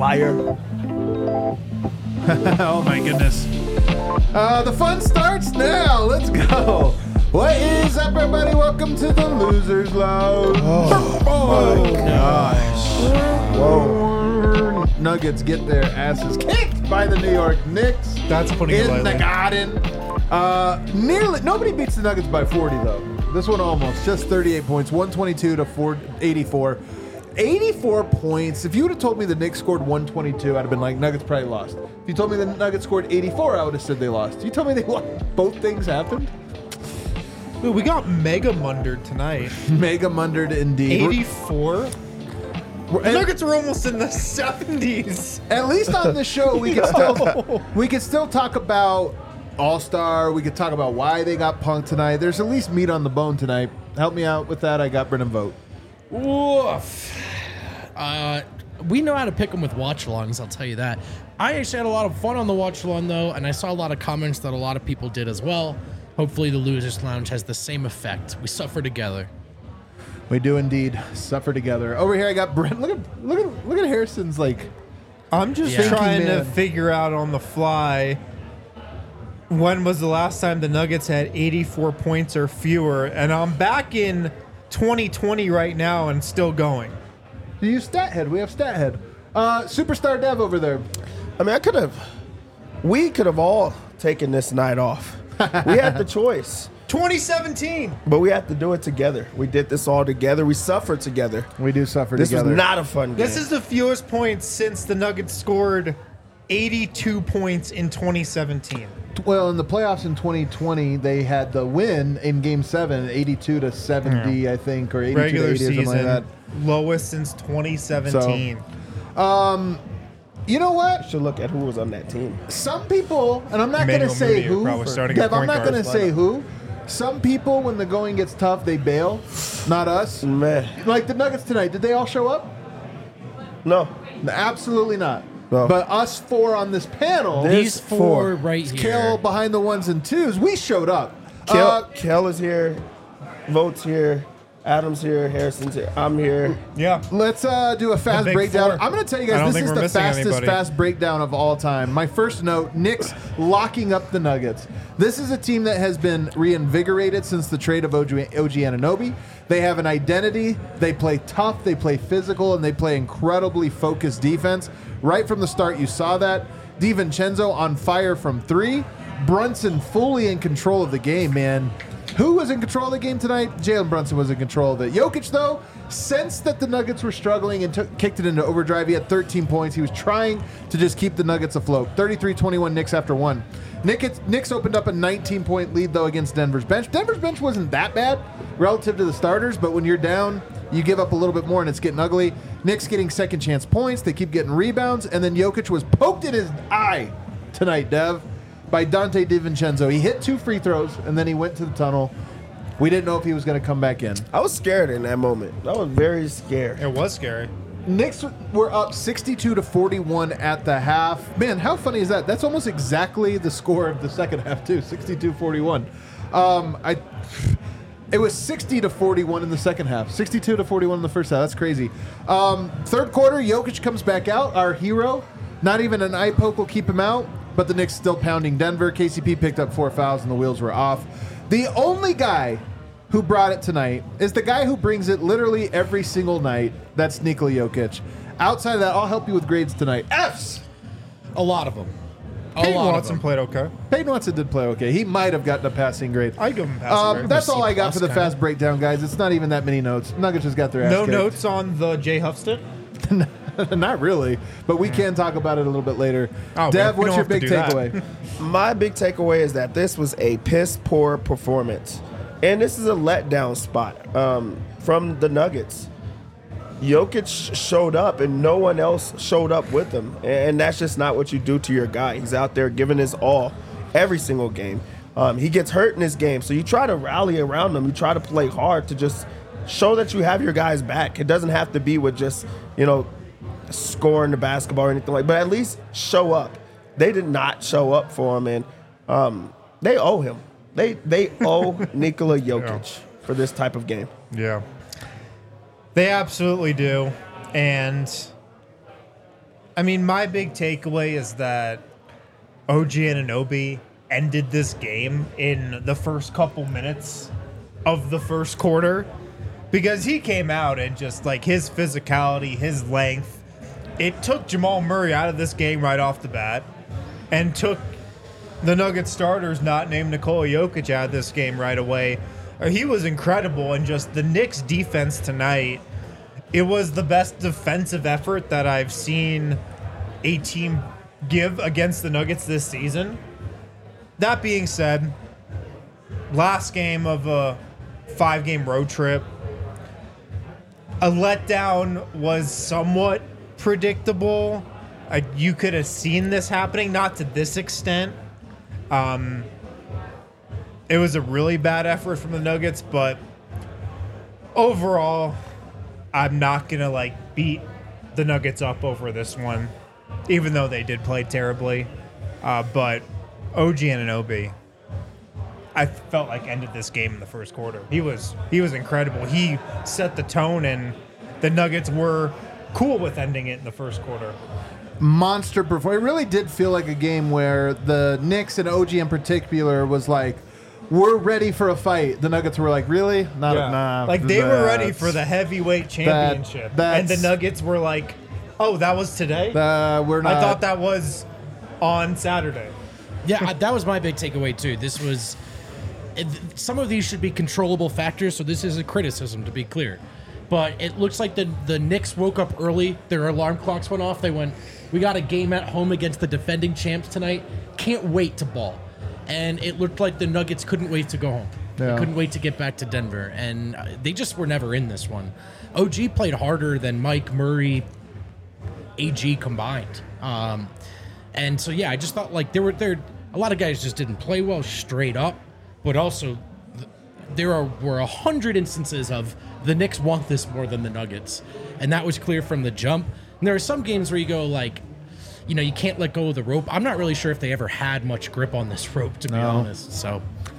liar. Oh my goodness. The fun starts now. Let's go. What is up, everybody? Welcome to the Losers Lounge. Oh my gosh. Whoa. Nuggets get their asses kicked by the New York Knicks. That's putting it in lightly. the Garden. Nearly nobody beats the Nuggets by 40 though. This one almost just 38 points, 122 to 84. 84 points. If you would have told me the Knicks scored 122, I'd have been like, Nuggets probably lost. If you told me the Nuggets scored 84, I would have said they lost. You told me they won. Both things happened. Dude, we got mega mundered tonight. Mega mundered indeed. 84? The Nuggets were almost in the 70s. At least on this show, we could still talk about All-Star. We could talk about why they got punked tonight. There's at least meat on the bone tonight. Help me out with that. I got Brennan Vogt. Woof. We know how to pick them with watch-alongs, I'll tell you that. I actually had a lot of fun on the watch-along, though, and I saw a lot of comments that a lot of people did as well. Hopefully the Losers Lounge has the same effect. We suffer together. We do indeed suffer together. Over here, I got Brent. Look at Harrison's like. I'm just Yeah. trying Thinking to man. figure out on the fly when was the last time the Nuggets had 84 points or fewer, and I'm back in 2020 right now and still going. Do you StatHead? We have StatHead. Superstar Dev over there. I mean, we could have all taken this night off. We had the choice, 2017. but we had to do it together. We did this all together. We suffered together. We do suffer This together. was not a fun game. This is the fewest points since the Nuggets scored 82 points in 2017. Well, in the playoffs in 2020, they had the win in Game 7, 82 to 70, I think, or 82 Regular to 80 or something season, like lowest since 2017. that. You know what? should look at who was on that team. Some people, and I'm not going to Emmanuel say Mudiay who. probably starting Dev, at I'm point not guard. going to say who. Some people, when the going gets tough, they bail. Not us. Man, Like the Nuggets tonight, did they all show up? no. Absolutely not. No. But us four on this panel, These four. four right here. Kill behind the ones and twos, we showed up. Kel is here. Votes here. Adam's here. Harrison's here. I'm here. Yeah. Let's do a fast big breakdown. four. I'm going to tell you I guys, don't this think is we're the missing fastest anybody. fast breakdown of all time. My first note, Knicks locking up the Nuggets. This is a team that has been reinvigorated since the trade of OG Anunoby. They have an identity. They play tough. They play physical, and they play incredibly focused defense. Right from the start, you saw that. DiVincenzo on fire from three. Brunson fully in control of the game, man. Who was in control of the game tonight? Jalen Brunson was in control of it. Jokic, though, sensed that the Nuggets were struggling and kicked it into overdrive. He had 13 points. He was trying to just keep the Nuggets afloat. 33-21 Knicks after one. Knicks opened up a 19-point lead, though, against Denver's bench. Denver's bench wasn't that bad relative to the starters, but when you're down, you give up a little bit more, and it's getting ugly. Knicks getting second-chance points. They keep getting rebounds, and then Jokic was poked in his eye tonight, Dev, by Dante DiVincenzo. He hit 2 free throws, and then he went to the tunnel. We didn't know if he was going to come back in. I was scared in that moment. I was very scared. It was scary. Knicks were up 62 to 41 at the half. Man, how funny is that? That's almost exactly the score of the second half, too. 62-41. It was 60 to 41 in the second half. 62 to 41 in the first half. That's crazy. Third quarter, Jokic comes back out, our hero. Not even an eye poke will keep him out, but the Knicks still pounding Denver. KCP picked up 4 fouls, and the wheels were off. The only guy who brought it tonight is the guy who brings it literally every single night. That's Nikola Jokic. Outside of that, I'll help you with grades tonight. F's! A lot of them. Peyton lot of Watson them. played okay. Peyton Watson did play okay. He might have gotten a passing grade. I give him passing grade. That's C all I got for the plus, fast breakdown, guys. It's not even that many notes. Nuggets just got their ass No kicked. notes on the Jay Huffston? Not really, but we can talk about it a little bit later. Oh, Dev, we what's don't your have to big do that. takeaway? My big takeaway is that this was a piss poor performance. And this is a letdown spot from the Nuggets. Jokic showed up and no one else showed up with him. And that's just not what you do to your guy. He's out there giving his all every single game. He gets hurt in this game. So you try to rally around him. You try to play hard to just show that you have your guys back. It doesn't have to be with just, scoring the basketball or anything like that. But at least show up. They did not show up for him. And they owe him. They owe Nikola Jokic for this type of game. Yeah. They absolutely do. And I mean, my big takeaway is that OG Anunoby ended this game in the first couple minutes of the first quarter because he came out and just like his physicality, his length, it took Jamal Murray out of this game right off the bat and took the Nuggets starters not named Nikola Jokic out of this game right away. He was incredible, and just the Knicks defense tonight, it was the best defensive effort that I've seen a team give against the Nuggets this season. That being said, last game of a 5-game road trip, a letdown was somewhat predictable. You could have seen this happening, not to this extent. It was a really bad effort from the Nuggets, but overall, I'm not going to beat the Nuggets up over this one, even though they did play terribly. But OG Anunoby, I felt like ended this game in the first quarter. He was incredible. He set the tone, and the Nuggets were cool with ending it in the first quarter. Monster performance. It really did feel like a game where the Knicks and OG in particular was like, we're ready for a fight. The Nuggets were like, really? Nah. They were ready for the heavyweight championship. And the Nuggets were like, oh, that was today? We're not. I thought that was on Saturday. Yeah, that was my big takeaway, too. This was... Some of these should be controllable factors, so this is a criticism, to be clear. But it looks like the Knicks woke up early. Their alarm clocks went off. They went, we got a game at home against the defending champs tonight. Can't wait to ball. And it looked like the Nuggets couldn't wait to go home. Yeah. They couldn't wait to get back to Denver. And they just were never in this one. OG played harder than Mike, Murray, AG combined. And so, yeah, I just thought like there were a lot of guys just didn't play well straight up. But also, were 100 instances of the Knicks want this more than the Nuggets. And that was clear from the jump. And there are some games where you go like, you can't let go of the rope. I'm not really sure if they ever had much grip on this rope, to be honest. So,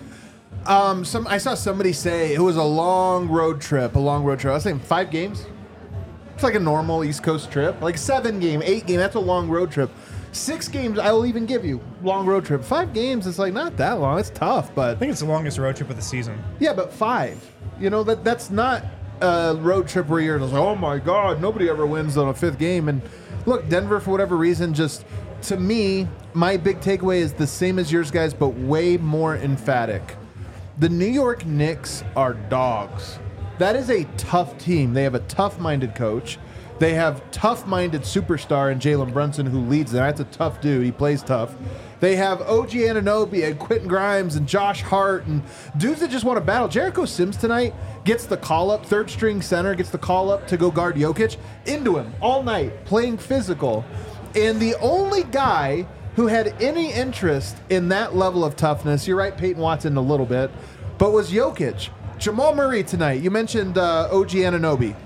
I saw somebody say it was a long road trip. I was saying 5 games. It's like a normal East Coast trip. Like 7 game, 8 game. That's a long road trip. 6 games, I will even give you long road trip. 5 games, it's like not that long. It's tough, but I think it's the longest road trip of the season. Yeah, but 5. That's not a road trip where you're just like, oh my God, nobody ever wins on a 5th game. And look, Denver, for whatever reason, just to me, my big takeaway is the same as yours guys, but way more emphatic. The New York Knicks are dogs. That is a tough team. They have a tough-minded coach. They have tough-minded superstar in Jalen Brunson who leads them. That's a tough dude. He plays tough. They have OG Anunoby and Quentin Grimes and Josh Hart and dudes that just want to battle. Jericho Sims tonight gets the call-up, third-string center, gets the call-up to go guard Jokic. Into him all night, playing physical. And the only guy who had any interest in that level of toughness, you're right, Peyton Watson a little bit, but was Jokic. Jamal Murray tonight. You mentioned OG Anunoby.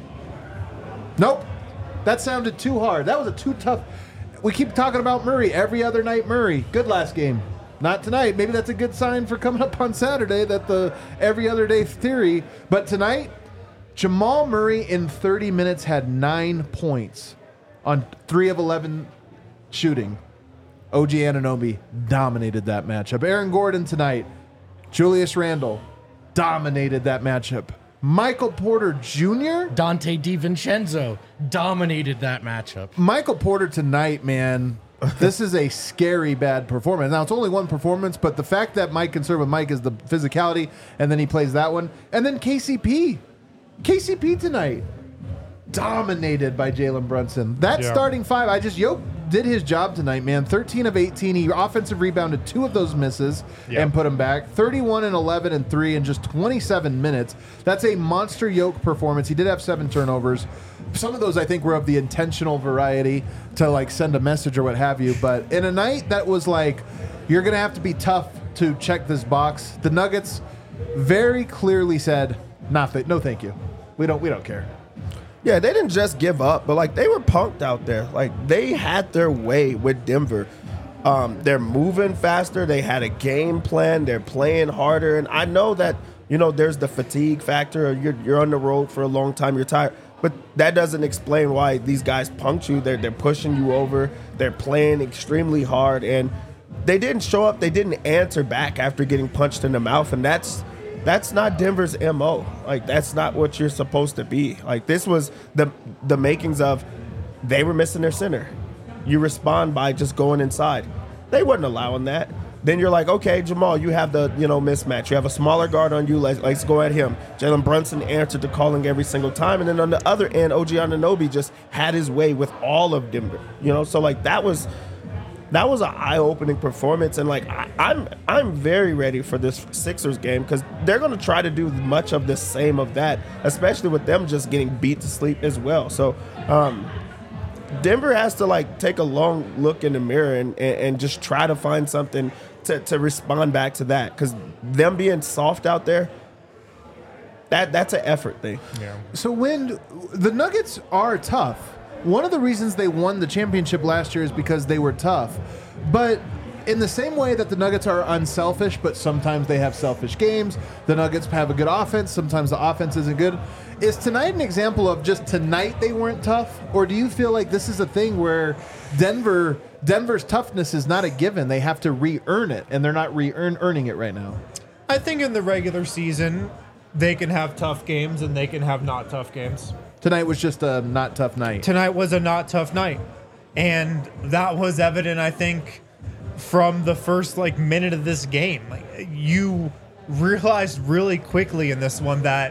Nope. That sounded too hard. That was a too tough. We keep talking about Murray every other night. Murray, good last game. Not tonight. Maybe that's a good sign for coming up on Saturday, that the every other day theory. But tonight, Jamal Murray in 30 minutes had 9 points on 3 of 11 shooting. OG Anunoby dominated that matchup. Aaron Gordon tonight, Julius Randle dominated that matchup. Michael Porter Jr. Dante DiVincenzo dominated that matchup. Michael Porter tonight, man, this is a scary bad performance. Now, it's only one performance, but the fact that Mike can serve with Mike is the physicality, and then he plays that one. And then KCP. KCP tonight, dominated by Jalen Brunson. That starting 5, Yoke did his job tonight, man. 13 of 18. He offensive rebounded 2 of those misses and put them back. 31 and 11 and 3 in just 27 minutes. That's a monster Yoke performance. He did have 7 turnovers. Some of those, I think, were of the intentional variety to, send a message or what have you. But in a night that was you're going to have to be tough to check this box, the Nuggets very clearly said, no, thank you. We don't care. Yeah, they didn't just give up, but they were punked out there. They had their way with Denver. They're moving faster. They had a game plan. They're playing harder. And I know that, there's the fatigue factor. You're on the road for a long time. You're tired. But that doesn't explain why these guys punked you. They're pushing you over. They're playing extremely hard, and they didn't show up. They didn't answer back after getting punched in the mouth, and that's not Denver's MO. Like, that's not what you're supposed to be. Like, this was the makings of they were missing their center. You respond by just going inside. They wasn't allowing that. Then you're like, okay, Jamal, you have the mismatch. You have a smaller guard on you. Let's go at him. Jalen Brunson answered the calling every single time. And then on the other end, OG Anunoby just had his way with all of Denver. So like that was an eye-opening performance. And like I'm very ready for this Sixers game because they're going to try to do much of the same of that, especially with them just getting beat to sleep as well. So Denver has to like take a long look in the mirror and just try to find something to respond back to that, because them being soft out there, that's an effort thing. Yeah. So when the Nuggets are tough, one of the reasons they won the championship last year is because they were tough. But in the same way that the Nuggets are unselfish, but sometimes they have selfish games, the Nuggets have a good offense, sometimes the offense isn't good. Is tonight an example of just tonight they weren't tough? Or do you feel like this is a thing where Denver's toughness is not a given? They have to re-earn it, and they're not earning it right now. I think in the regular season, they can have tough games and they can have not tough games. Tonight was just a not tough night. Tonight was a not tough night. And that was evident, I think, from the first minute of this game. You realized really quickly in this one that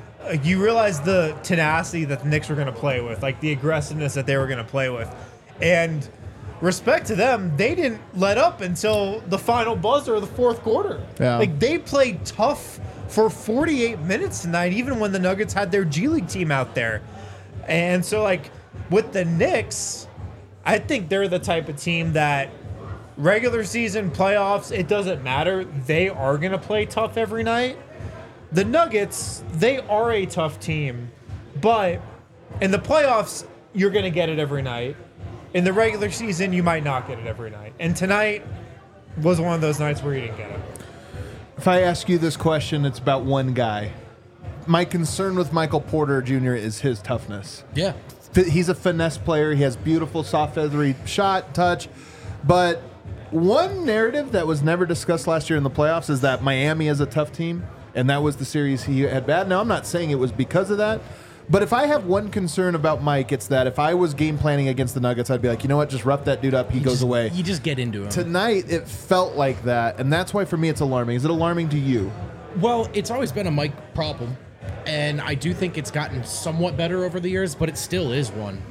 you realized the tenacity that the Knicks were going to play with, like the aggressiveness that they were going to play with. And respect to them, they didn't let up until the final buzzer of the fourth quarter. Yeah. Like, they played tough for 48 minutes tonight, even when the Nuggets had their G League team out there. And so, with the Knicks, I think they're the type of team that regular season, playoffs, it doesn't matter. They are going to play tough every night. The Nuggets, they are a tough team, but in the playoffs, you're going to get it every night. In the regular season, you might not get it every night. And tonight was one of those nights where you didn't get it. If I ask you this question, it's about one guy. My concern with Michael Porter Jr. is his toughness. Yeah. He's a finesse player. He has beautiful, soft, feathery shot, touch. But one narrative that was never discussed last year in the playoffs is that Miami is a tough team, and that was the series he had bad. Now, I'm not saying it was because of that, but if I have one concern about Mike, it's that if I was game planning against the Nuggets, I'd be like, you know what, just rough that dude up. He goes away. You just get into him. Tonight, it felt like that, and that's why for me it's alarming. Is it alarming to you? Well, it's always been a Mike problem, and I do think it's gotten somewhat better over the years, but it still is one.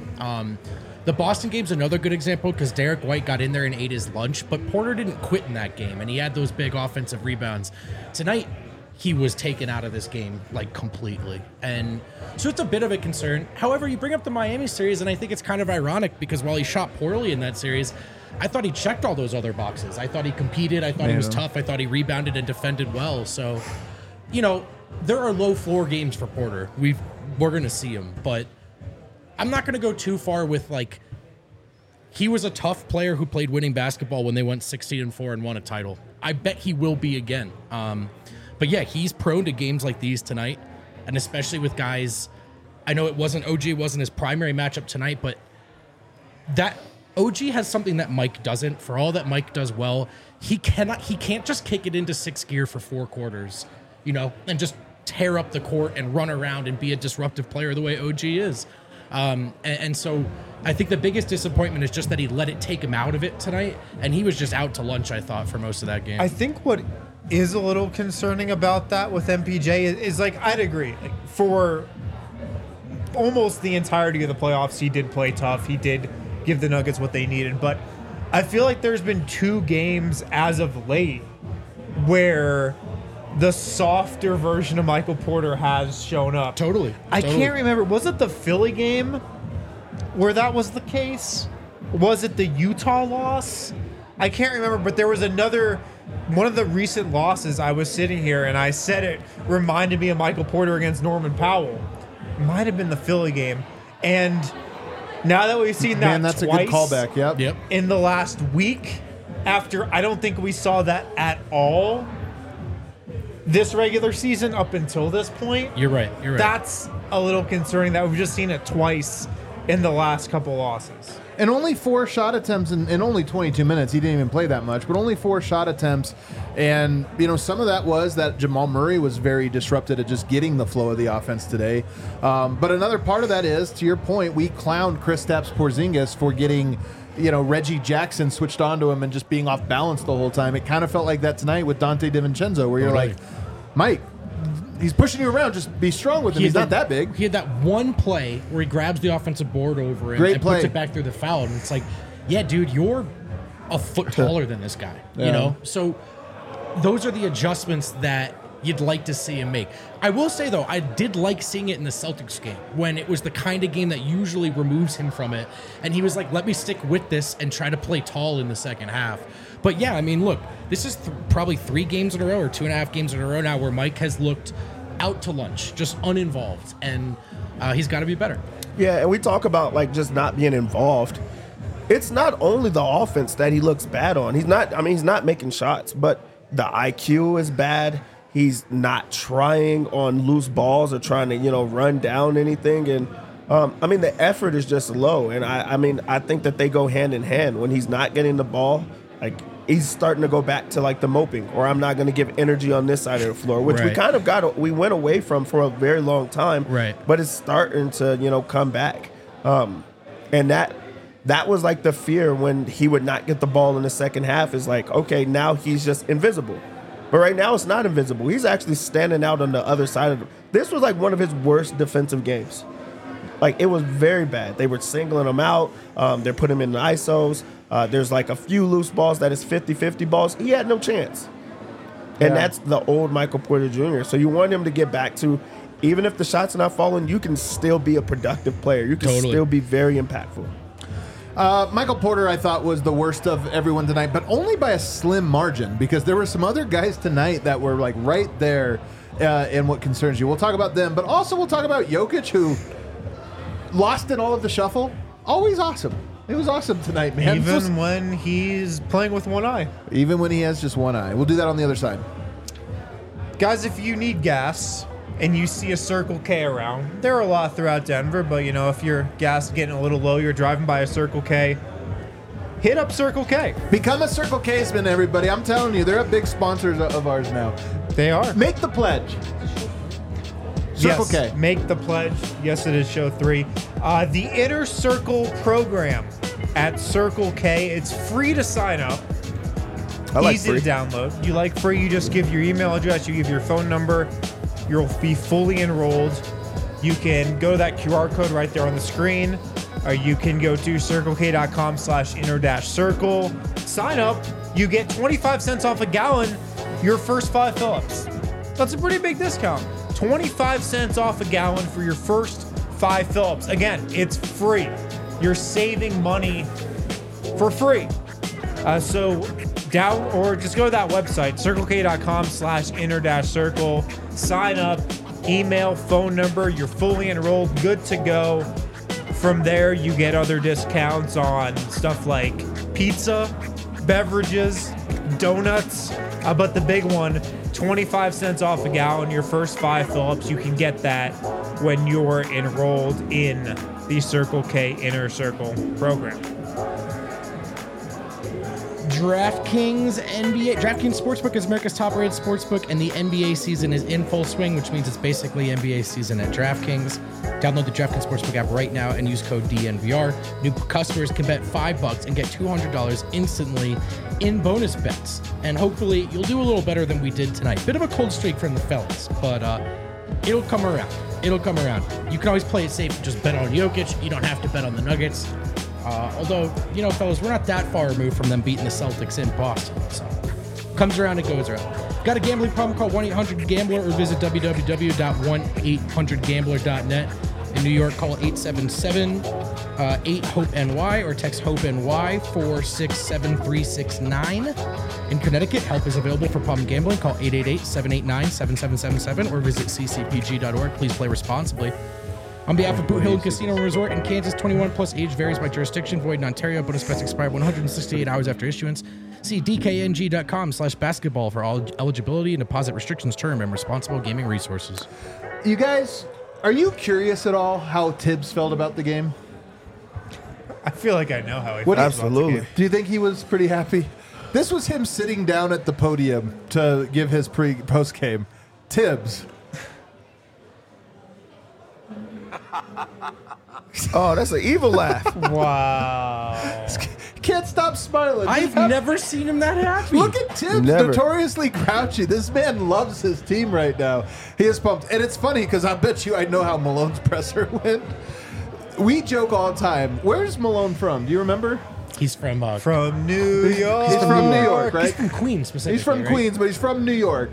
The Boston game's another good example because Derek White got in there and ate his lunch, but Porter didn't quit in that game, and he had those big offensive rebounds. Tonight, he was taken out of this game, completely. And so it's a bit of a concern. However, you bring up the Miami series, and I think it's kind of ironic because while he shot poorly in that series, I thought he checked all those other boxes. I thought he competed. I thought he was tough. I thought he rebounded and defended well. So, there are low floor games for Porter. We're going to see him, but I'm not going to go too far with he was a tough player who played winning basketball when they went 16-4 and won a title. I bet he will be again. But yeah, he's prone to games like these tonight, and especially with guys. I know OG wasn't his primary matchup tonight, but that OG has something that Mike doesn't. For all that Mike does well, he can't just kick it into sixth gear for 4 quarters, and just tear up the court and run around and be a disruptive player the way OG is. And so I think the biggest disappointment is just that he let it take him out of it tonight, and he was just out to lunch, I thought, for most of that game. I think what is a little concerning about that with MPJ is I'd agree. For almost the entirety of the playoffs, he did play tough. He did give the Nuggets what they needed. But I feel like there's been 2 games as of late where the softer version of Michael Porter has shown up. Totally. I can't remember. Was it the Philly game where that was the case? Was it the Utah loss? I can't remember, but there was one of the recent losses. I was sitting here and I said it reminded me of Michael Porter against Norman Powell. It might have been the Philly game. And now that we've seen that that's twice a good callback. Yep. in the last week, after I don't think we saw that at all, this regular season up until this point. You're right. You're right. That's a little concerning that we've just seen it twice in the last couple losses. And only 4 shot attempts in only 22 minutes. He didn't even play that much, but only 4 shot attempts. And, some of that was that Jamal Murray was very disrupted at just getting the flow of the offense today. But another part of that is, to your point, we clowned Kristaps Porzingis for getting, Reggie Jackson switched onto him and just being off balance the whole time. It kind of felt like that tonight with Dante DiVincenzo, where you're like, Mike, he's pushing you around. Just be strong with him. He's not that big. He had that one play where he grabs the offensive board over him Great and play. puts it back through the foul. And it's like, yeah, dude, you're a foot taller than this guy. Yeah. So those are the adjustments that you'd like to see him make. I will say, though, I did like seeing it in the Celtics game when it was the kind of game that usually removes him from it. And he was like, let me stick with this and try to play tall in the second half. But yeah, I mean, look, this is probably 3 games in a row or 2.5 games in a row now where Mike has looked out to lunch, just uninvolved, and he's got to be better. Yeah, and we talk about like just not being involved. It's not only the offense that he looks bad on. He's not making shots, but the IQ is bad. He's not trying on loose balls or trying to, run down anything. And the effort is just low. And I think that they go hand in hand. When he's not getting the ball, like he's starting to go back to like the moping, or I'm not going to give energy on this side of the floor, which we Right. kind of we went away from for a very long time. Right. But it's starting to, come back. And that was like the fear when he would not get the ball in the second half, is like, okay, now he's just invisible. But right now it's not invisible. He's actually standing out on the other side of it. This was like one of his worst defensive games. Like, it was very bad. They were singling him out. They're putting him in the ISOs. There's like a few loose balls that is 50-50 balls. He had no chance. And that's the old Michael Porter Jr. So you want him to get back to, even if the shots are not falling, you can still be a productive player. You can still be very impactful. Michael Porter, I thought, was the worst of everyone tonight, but only by a slim margin, because there were some other guys tonight that were like right there in what concerns you. We'll talk about them, but also we'll talk about Jokic, who lost in all of the shuffle. Always awesome. It was awesome tonight, man. Even when he's playing with one eye. Even when he has just one eye. We'll do that on the other side. Guys, if you need gas and you see a Circle K around, there are a lot throughout Denver, but if your gas is getting a little low, you're driving by a Circle K, hit up Circle K. Become a Circle K-sman, everybody. I'm telling you, they're big sponsors of ours now. They are. Make the pledge. Circle Yes, K. make the pledge. Yes, it is show 3. The Inner Circle program at Circle K. It's free to sign up. I like Easy free. to download. You like free, you just give your email address, you give your phone number. You'll be fully enrolled. You can go to that QR code right there on the screen, or you can go to circlek.com/inner-circle. Sign up. You get 25 cents off a gallon your first 5 fill-ups. That's a pretty big discount. 25 cents off a gallon for your first 5 fill-ups. Again, it's free. You're saving money for free. So just go to that website, circlek.com/inner-circle. Sign up, email, phone number. You're fully enrolled, good to go. From there, you get other discounts on stuff like pizza, beverages, donuts. But the big one, 25 cents off a gallon, your first 5 fill-ups. You can get that when you're enrolled in the Circle K Inner Circle program. DraftKings Sportsbook is America's top-rated sportsbook, and the NBA season is in full swing, which means it's basically NBA season at DraftKings. Download the DraftKings Sportsbook app right now and use code DNVR. New customers can bet $5 and get $200 instantly in bonus bets. And hopefully you'll do a little better than we did tonight. Bit of a cold streak from the fellas, but it'll come around. It'll come around. You can always play it safe. Just bet on Jokic. You don't have to bet on the Nuggets. Although, fellas, we're not that far removed from them beating the Celtics in Boston. So, comes around, it goes around. Got a gambling problem? Call 1-800-GAMBLER or visit www.1800gambler.net. In New York, call 877-8-HOPE-NY or text HOPE-NY 467-369. In Connecticut, help is available for problem gambling. Call 888-789-7777 or visit ccpg.org. Please play responsibly. On behalf of Boot Hill Casino and Resort in Kansas, 21 plus, age varies by jurisdiction, void in Ontario. Bonus bets expire 168 hours after issuance. See dkng.com/basketball for all eligibility and deposit restrictions, term, and responsible gaming resources. You guys, are you curious at all how Tibbs felt about the game? I feel like I know how he What- feels about the Absolutely. game. Do you think he was pretty happy? This was him sitting down at the podium to give his post game. Tibbs. Oh, that's an evil laugh. Wow. Can't stop smiling. I've never seen him that happy. Look at Tibbs, Never. notoriously grouchy. This man loves his team right now. He is pumped. And it's funny because I bet you I know how Malone's presser went. We joke all the time. Where's Malone from? Do you remember? He's from From New York. He's from New York, right? He's from Queens specifically. He's from right? Queens, but he's from New York.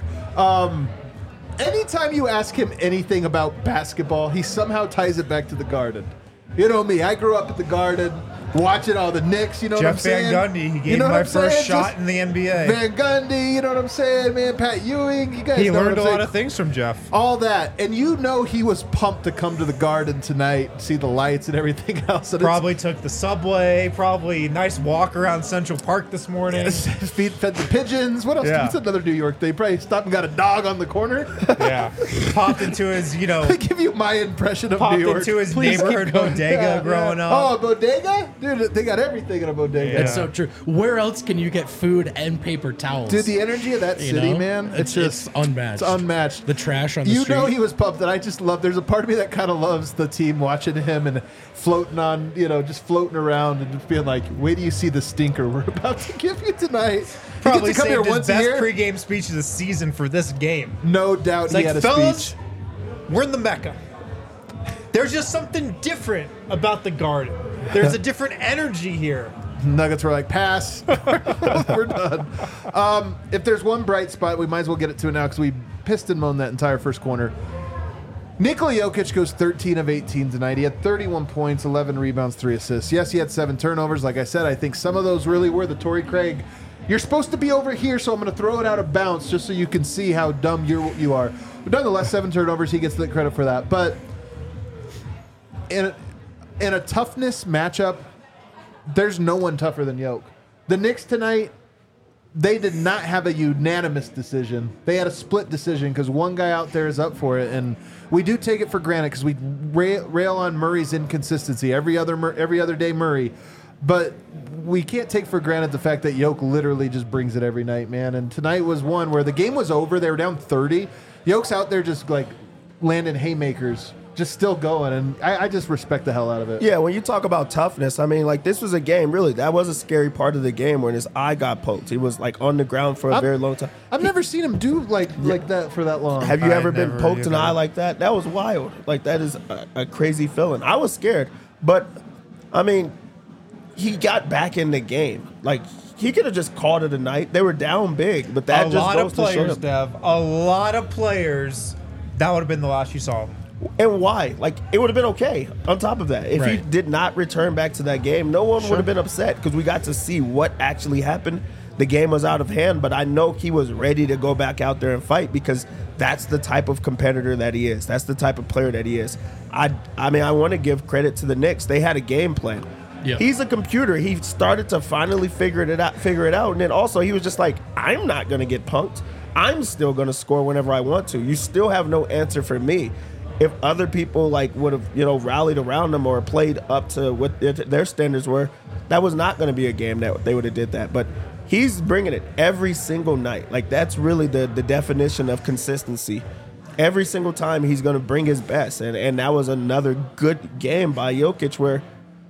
Anytime you ask him anything about basketball, he somehow ties it back to the Garden. You know me. I grew up at the Garden, watching all the Knicks. You know what I'm Jeff saying? Van Gundy. He gave You know me what my I'm first saying? shot Just in the NBA. Van Gundy. You know what I'm saying, man? Pat Ewing. You guys He know what learned I'm a lot saying? of things from Jeff. All that, and you know he was pumped to come to the Garden tonight, see the lights and everything else. And Probably took the subway. Probably nice walk around Central Park this morning. fed the pigeons. What else? Yeah. What's another New York thing? Probably stopped and got a dog on the corner. Yeah. Popped into his, I give you my impression of popped New York. into his Please keep neighborhood going. bodega growing up. Oh, a bodega? Dude, they got everything in a bodega. Yeah. It's so true. Where else can you get food and paper towels? Dude, the energy of that You city, know? man, it's It's just unmatched. It's unmatched. The trash on the You street. know he was pumped, and I just love. There's a part of me that kind of loves the team watching him and floating on, just floating around and just being like, "Wait till you see the stinker we're about to give you tonight." Probably he gets to come here saved his once a best year. pregame speech of the season for this game. No doubt It's he like, had a fellas, speech. we're in the Mecca. There's just something different about the Garden. There's a different energy here. Nuggets were like, pass. We're done. If there's one bright spot, we might as well get it to it now because we piston moaned that entire first corner. Nikola Jokic goes 13 of 18 tonight. He had 31 points, 11 rebounds, 3 assists. Yes, he had 7 turnovers. Like I said, I think some of those really were the Torrey Craig. You're supposed to be over here, so I'm going to throw it out of bounds just so you can see how dumb you are. But nonetheless, 7 turnovers. He gets the credit for that. But in a toughness matchup, there's no one tougher than Yoke. The Knicks tonight, they did not have a unanimous decision. They had a split decision because one guy out there is up for it, and we do take it for granted because we rail on Murray's inconsistency every other day Murray, but we can't take for granted the fact that Yoke literally just brings it every night, man. And tonight was one where the game was over. They were down 30. Yoke's out there just like landing haymakers, just still going, and I just respect the hell out of it. Yeah, when you talk about toughness, I mean, like, this was a game, really. That was a scary part of the game when his eye got poked. He was, like, on the ground for a very long time. I've never seen him do like that for that long. Have you I ever been never poked in the either. eye like that? That was wild. Like, that is a crazy feeling. I was scared. But, I mean, he got back in the game. Like, he could have just called it a night. They were down big, but that A just lot goes of to show players, them. Dev. A lot of players. That would have been the last you saw. And why? Like, it would have been okay on top of that. If he Right. did not return back to that game, no one would have been upset because we got to see what actually happened. The game was out of hand, but I know he was ready to go back out there and fight because that's the type of competitor that he is. That's the type of player that he is. I mean, I want to give credit to the Knicks. They had a game plan. Yeah. He's a computer. He started to finally figure it out. And then also he was just like, I'm not going to get punked. I'm still going to score whenever I want to. You still have no answer for me. If other people like would have, rallied around him or played up to what their standards were, that was not going to be a game that they would have did that. But he's bringing it every single night. Like, that's really the definition of consistency. Every single time he's going to bring his best. And that was another good game by Jokic where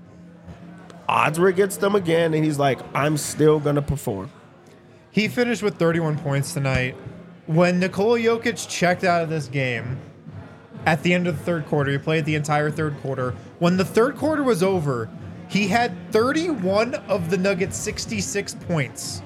odds were against them again. And he's like, I'm still going to perform. He finished with 31 points tonight. When Nikola Jokic checked out of this game at the end of the third quarter, he played the entire third quarter. When the third quarter was over, he had 31 of the Nuggets' 66 points.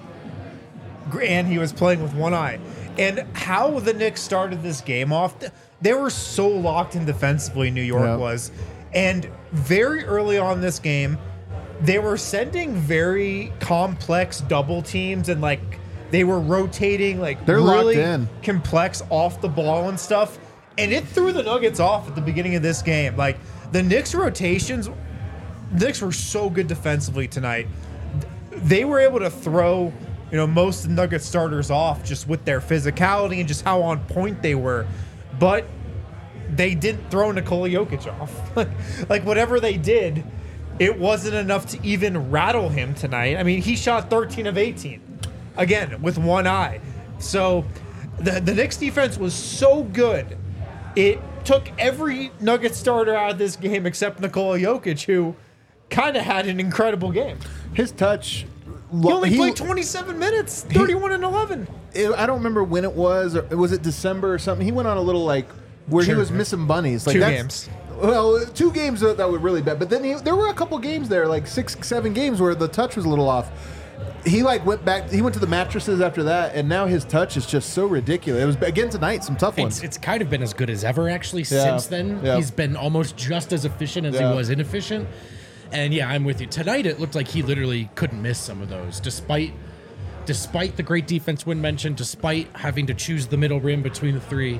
And he was playing with one eye. And how the Knicks started this game off, they were so locked in defensively, New York Yeah. was. And very early on in this game, they were sending very complex double teams and they were rotating They're locked really in. complex off the ball and stuff. And it threw the Nuggets off at the beginning of this game. Like, the Knicks rotations, the Knicks were so good defensively tonight. They were able to throw most of the Nuggets starters off just with their physicality and just how on point they were. But they didn't throw Nikola Jokic off. Like whatever they did, it wasn't enough to even rattle him tonight. I mean, he shot 13 of 18. Again, with one eye. So the Knicks defense was so good. It took every Nuggets starter out of this game except Nikola Jokic, who kind of had an incredible game. His touch. He only played 27 minutes, 31 and 11. I don't remember when it was. Or was it December or something? He went on a little where he was missing bunnies. Like 2 games. Well, 2 games that were really bad. But then there were a couple games there, like 6, 7 games where the touch was a little off. He went back. He went to the mattresses after that, and now his touch is just so ridiculous. It was again tonight, some tough ones. It's kind of been as good as ever actually since then. Yeah. He's been almost just as efficient as he was inefficient. And yeah, I'm with you. Tonight it looked like he literally couldn't miss some of those, despite the great defense Wynn mentioned, despite having to choose the middle rim between the 3.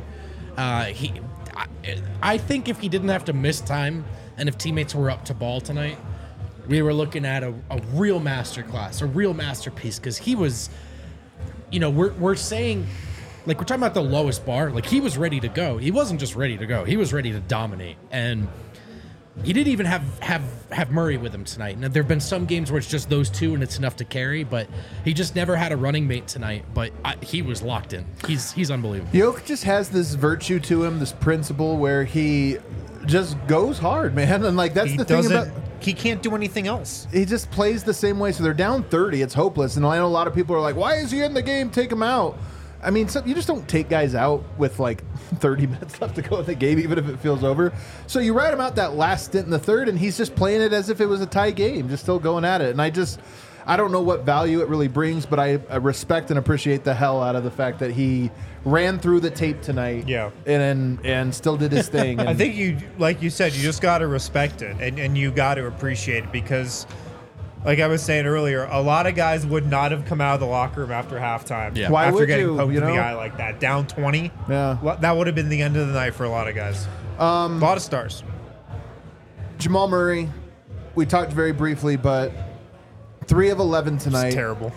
I think if he didn't have to miss time, and if teammates were up to ball tonight, we were looking at a real masterclass, a real masterpiece, because he was, we're saying, like, we're talking about the lowest bar. Like, he was ready to go. He wasn't just ready to go. He was ready to dominate. And he didn't even have Murray with him tonight. Now, there have been some games where it's just those two and it's enough to carry, but he just never had a running mate tonight. But he was locked in. He's unbelievable. Jokic just has this virtue to him, this principle where he just goes hard, man. And like that's the thing about he can't do anything else. He just plays the same way. So they're down 30. It's hopeless. And I know a lot of people are like, "Why is he in the game? Take him out." I mean, you just don't take guys out with like 30 minutes left to go in the game, even if it feels over. So you ride him out that last stint in the third, and he's just playing it as if it was a tie game, just still going at it. And I don't know what value it really brings, but I respect and appreciate the hell out of the fact that he ran through the tape tonight, and still did his thing. And I think you, like you said, you just got to respect it, and you got to appreciate it because, like I was saying earlier, a lot of guys would not have come out of the locker room after halftime. Yeah. Why after would getting you, poked in the eye like that, down 20. Yeah. That would have been the end of the night for a lot of guys. A lot of stars. Jamal Murray, we talked very briefly, but 3 of 11 tonight. It's terrible.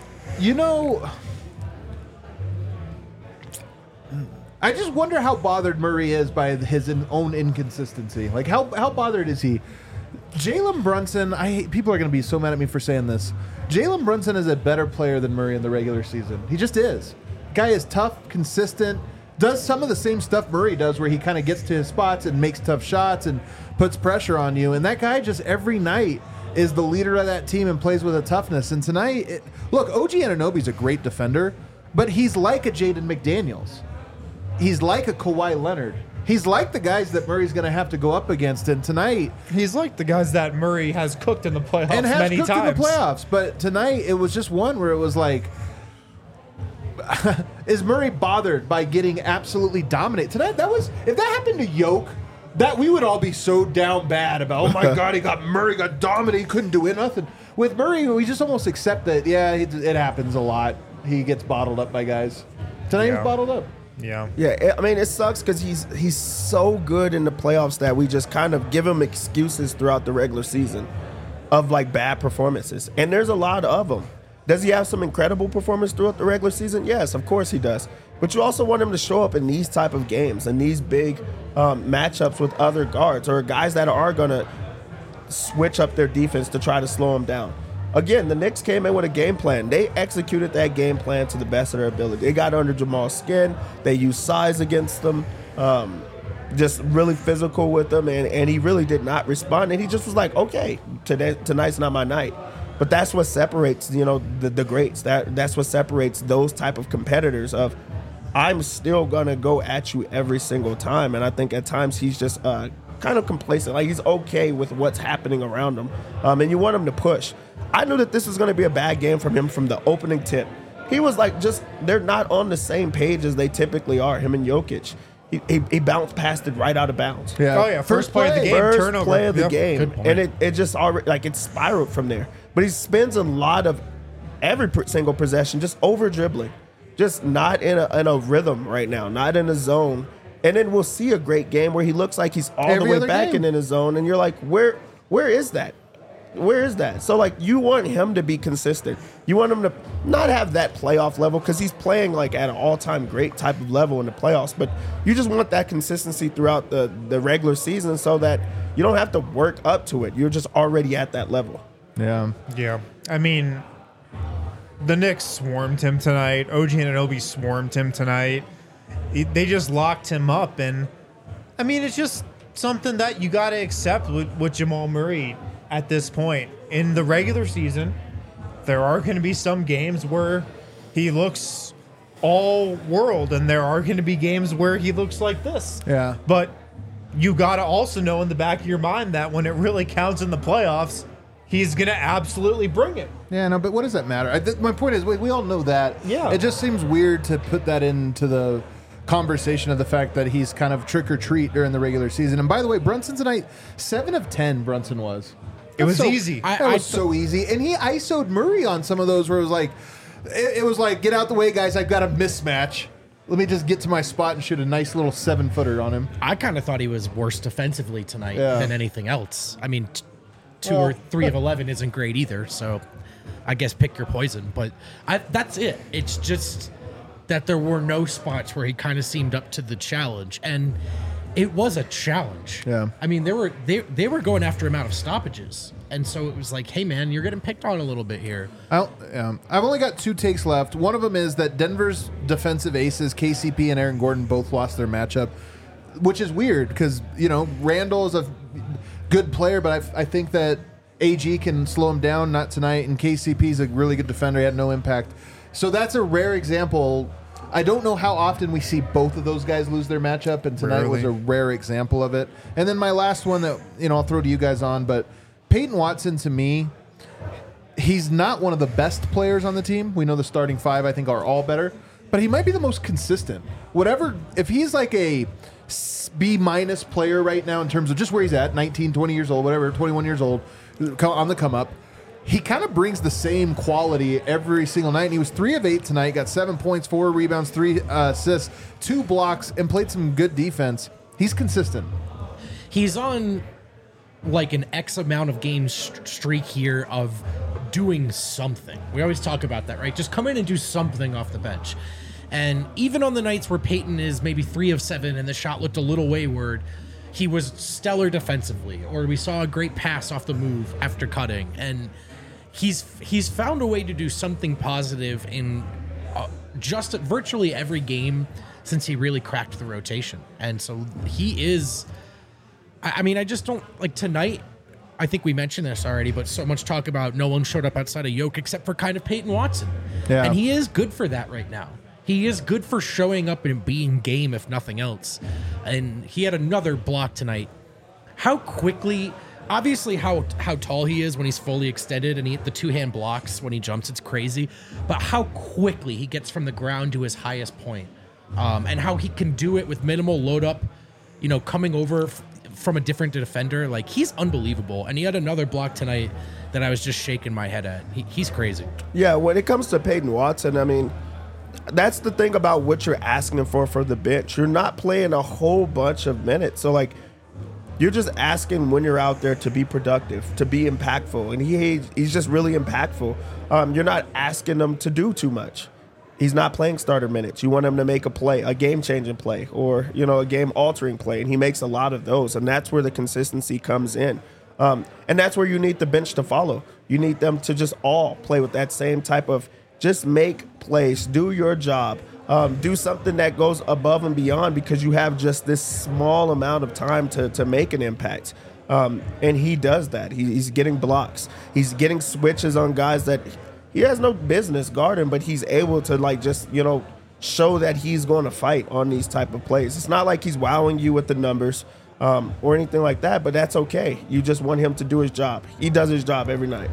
I just wonder how bothered Murray is by his own inconsistency. Like, how bothered is he? Jalen Brunson, people are going to be so mad at me for saying this. Jalen Brunson is a better player than Murray in the regular season. He just is. Guy is tough, consistent, does some of the same stuff Murray does where he kind of gets to his spots and makes tough shots and puts pressure on you. And that guy just every night is the leader of that team and plays with a toughness. And tonight, look, OG Anunoby's a great defender, but he's like a Jaden McDaniels. He's like a Kawhi Leonard. He's like the guys that Murray's going to have to go up against. And tonight, he's like the guys that Murray has cooked in the playoffs and has many cooked times. in the playoffs. But tonight, it was just one where it was like, is Murray bothered by getting absolutely dominated tonight? If that happened to Yoke, that we would all be so down bad about. Oh my God, Murray got dominated, he couldn't do it, nothing. With Murray, we just almost accept that. Yeah, it happens a lot. He gets bottled up by guys. Tonight, he's bottled up. Yeah. Yeah, I mean, it sucks because he's so good in the playoffs that we just kind of give him excuses throughout the regular season of like bad performances. And there's a lot of them. Does he have some incredible performance throughout the regular season? Yes, of course he does. But you also want him to show up in these type of games and these big matchups with other guards or guys that are going to switch up their defense to try to slow him down. Again, the Knicks came in with a game plan. They executed that game plan to the best of their ability. They got under Jamal's skin. They used size against them, just really physical with them, and he really did not respond. And he just was like, okay, tonight's not my night. But that's what separates, the greats. That's what separates those type of competitors of, I'm still going to go at you every single time. And I think at times he's just kind of complacent. Like, he's okay with what's happening around him. And you want him to push. I knew that this was going to be a bad game from him from the opening tip. He was like, they're not on the same page as they typically are, him and Jokic. He bounced past it right out of bounds. Yeah. Oh, yeah. First play of the game, First turnover. play of the Yep. game. And it just already, like, it spiraled from there. But he spends a lot of every single possession just over dribbling. Just not in a rhythm right now, not in a zone. And then we'll see a great game where he looks like he's all Every the way other back game. and in his zone. And you're like, where is that? where is that? So, like, you want him to be consistent. You want him to not have that playoff level because he's playing, like, at an all-time great type of level in the playoffs. But you just want that consistency throughout the regular season so that you don't have to work up to it. You're just already at that level. Yeah. Yeah. I mean, the Knicks swarmed him tonight. OG Anunoby swarmed him tonight. They just locked him up. And, I mean, it's just something that you got to accept with Jamal Murray at this point. In the regular season, there are going to be some games where he looks all world, and there are going to be games where he looks like this. Yeah. But you got to also know in the back of your mind that when it really counts in the playoffs, he's going to absolutely bring it. Yeah, no, but what does that matter? My point is, we all know that. Yeah. It just seems weird to put that into the conversation of the fact that he's kind of trick or treat during the regular season. And by the way, Brunson tonight, 7 of 10 Brunson was. It was So- easy. That was so easy. And he ISO'd Murray on some of those where it was like, it was like, get out the way, guys. I've got a mismatch. Let me just get to my spot and shoot a nice little 7-footer on him. I kind of thought he was worse defensively tonight Yeah. than anything else. I mean, 2 or 3 of 11 isn't great either. So I guess pick your poison. But that's it. It's just that there were no spots where he kind of seemed up to the challenge. And it was a challenge. Yeah. I mean, they were going after him out of stoppages. And so it was like, hey, man, you're getting picked on a little bit here. I've only got 2 takes left. One of them is that Denver's defensive aces, KCP and Aaron Gordon, both lost their matchup, which is weird because, Randall is a good player, but I think that AG can slow him down, not tonight, and KCP is a really good defender. He had no impact. So that's a rare example. I don't know how often we see both of those guys lose their matchup, and tonight was a rare example of it. And then my last one that, I'll throw to you guys on, but Peyton Watson, to me, he's not one of the best players on the team. We know the starting 5, I think, are all better, but he might be the most consistent. If he's like a B- player right now in terms of just where he's at, 19, 20 years old, whatever, 21 years old, on the come up, he kind of brings the same quality every single night. And he was 3 of 8 tonight, got 7 points, 4 rebounds, 3 assists, 2 blocks, and played some good defense. He's consistent. He's on like an X amount of games streak here of doing something. We always talk about that, right? Just come in and do something off the bench. And even on the nights where Peyton is maybe 3 of 7 and the shot looked a little wayward, he was stellar defensively, or we saw a great pass off the move after cutting. And he's found a way to do something positive in just virtually every game since he really cracked the rotation. And so he is, I mean, I just don't, like tonight, I think we mentioned this already, but so much talk about no one showed up outside of Yoke except for kind of Peyton Watson. Yeah. And he is good for that right now. He is good for showing up and being game, if nothing else. And he had another block tonight. How quickly, obviously how tall he is when he's fully extended and he hit the 2-hand blocks when he jumps, it's crazy. But how quickly he gets from the ground to his highest point. And how he can do it with minimal load up, coming over from a different defender. Like, he's unbelievable. And he had another block tonight that I was just shaking my head at. He's crazy. Yeah, when it comes to Peyton Watson, I mean, that's the thing about what you're asking for the bench. You're not playing a whole bunch of minutes. So, like, you're just asking when you're out there to be productive, to be impactful. And he's just really impactful. You're not asking him to do too much. He's not playing starter minutes. You want him to make a play, a game-changing play, or, a game-altering play. And he makes a lot of those. And that's where the consistency comes in. And that's where you need the bench to follow. You need them to just all play with that same type of just make plays, do your job, do something that goes above and beyond because you have just this small amount of time to make an impact. And he does that. He's getting blocks. He's getting switches on guys that he has no business guarding, but he's able to show that he's going to fight on these type of plays. It's not like he's wowing you with the numbers or anything like that, but that's okay. You just want him to do his job. He does his job every night.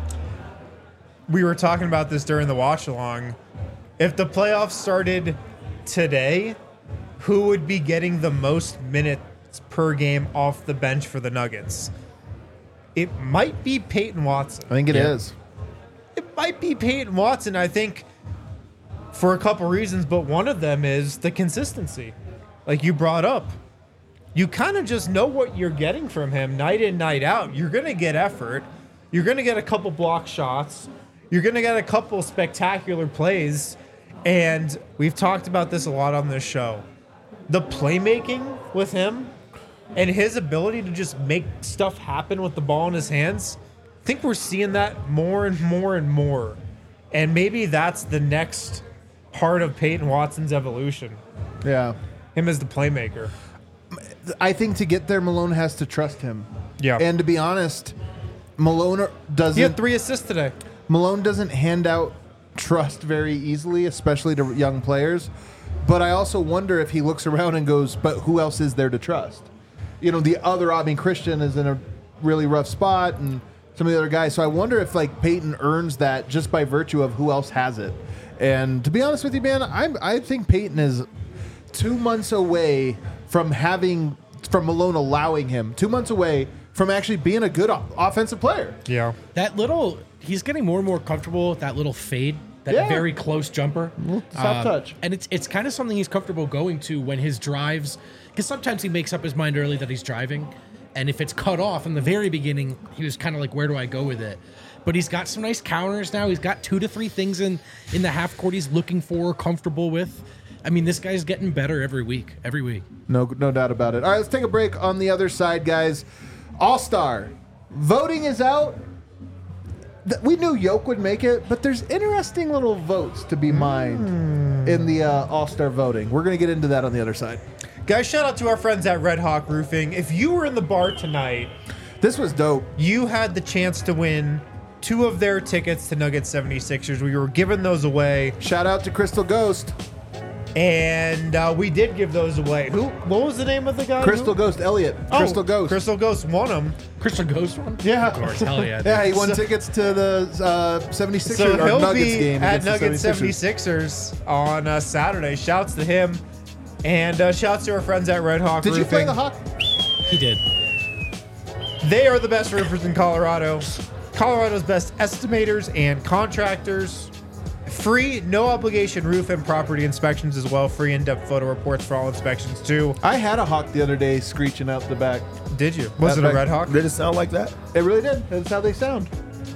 We were talking about this during the watch along. If the playoffs started today, who would be getting the most minutes per game off the bench for the Nuggets? It might be Peyton Watson. I think it is. It might be Peyton Watson, I think, for a couple reasons, but one of them is the consistency. Like you brought up, you kind of just know what you're getting from him night in, night out. You're going to get effort. You're going to get a couple block shots. You're going to get a couple spectacular plays. And we've talked about this a lot on this show. The playmaking with him and his ability to just make stuff happen with the ball in his hands, I think we're seeing that more and more and more. And maybe that's the next part of Peyton Watson's evolution. Yeah. Him as the playmaker. I think to get there, Malone has to trust him. Yeah. And to be honest, Malone He had 3 assists today. Malone doesn't hand out trust very easily, especially to young players. But I also wonder if he looks around and goes, but who else is there to trust? You know, Christian is in a really rough spot and some of the other guys. So I wonder if like Peyton earns that just by virtue of who else has it. And to be honest with you, man, I think Peyton is 2 months away from Malone allowing him, 2 months away from actually being a good offensive player. Yeah. He's getting more and more comfortable with that little fade, that very close jumper. Soft touch. And it's kind of something he's comfortable going to when his drives, because sometimes he makes up his mind early that he's driving. And if it's cut off in the very beginning, he was kind of like, where do I go with it? But he's got some nice counters now. He's got 2 to 3 things in the half court he's looking for, comfortable with. I mean, this guy's getting better every week. No doubt about it. All right, let's take a break. On the other side, guys, All-Star. Voting is out. We knew Yoke would make it, but there's interesting little votes to be mined in the All-Star voting. We're going to get into that on the other side. Guys, shout out to our friends at Red Hawk Roofing. If you were in the bar tonight, this was dope. You had the chance to win 2 of their tickets to Nuggets 76ers. We were giving those away. Shout out to Crystal Ghost. And we did give those away. What was the name of the guy? Crystal Ghost, Elliot. Crystal Ghost. Crystal Ghost won them. Crystal Ghost won? Yeah. Of course, hell yeah. Yeah, he won tickets to the 76ers so he'll Nuggets be game. At Nuggets 76ers on Saturday. Shouts to him. And shouts to our friends at Red Hawk Roofing. Did you play the Hawk? He did. They are the best roofers in Colorado. Colorado's best estimators and contractors. Free, no obligation roof and property inspections as well. Free in-depth photo reports for all inspections too. I had a Hawk the other day screeching out the back. Did you? Was it a Red Hawk? Did it sound like that? It really did. That's how they sound.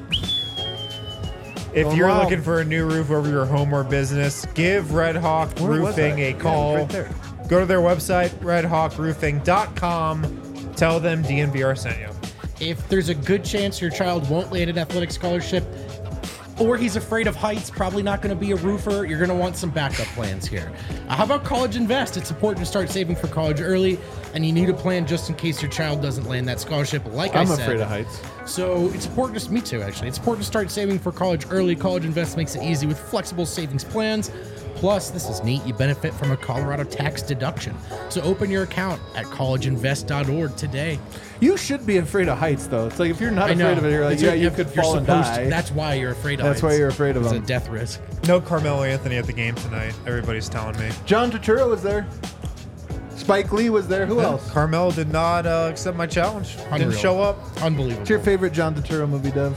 If you're looking for a new roof over your home or business, give Red Hawk Roofing a call. Right there. Go to their website, redhawkroofing.com. Tell them DNVR sent you. If there's a good chance your child won't land an athletic scholarship, or he's afraid of heights, probably not going to be a roofer, you're going to want some backup plans here. How about College Invest? It's important to start saving for college early, and you need a plan just in case your child doesn't land that scholarship, like I said. I'm afraid of heights. So it's important, me too, actually. It's important to start saving for college early. College Invest makes it easy with flexible savings plans. Plus, this is neat, you benefit from a Colorado tax deduction. So open your account at collegeinvest.org today. You should be afraid of heights, though. It's like if you're not I know. afraid of it, you're like, It's- you could fall and die. That's why you're afraid of That's heights. why you're afraid of It's them. a death risk. No Carmelo Anthony at the game tonight. Everybody's telling me. John Turturro was there. Spike Lee was there. Who else? Carmelo did not accept my challenge. Unreal. Didn't show up. Unbelievable. What's your favorite John Turturro movie, Dev?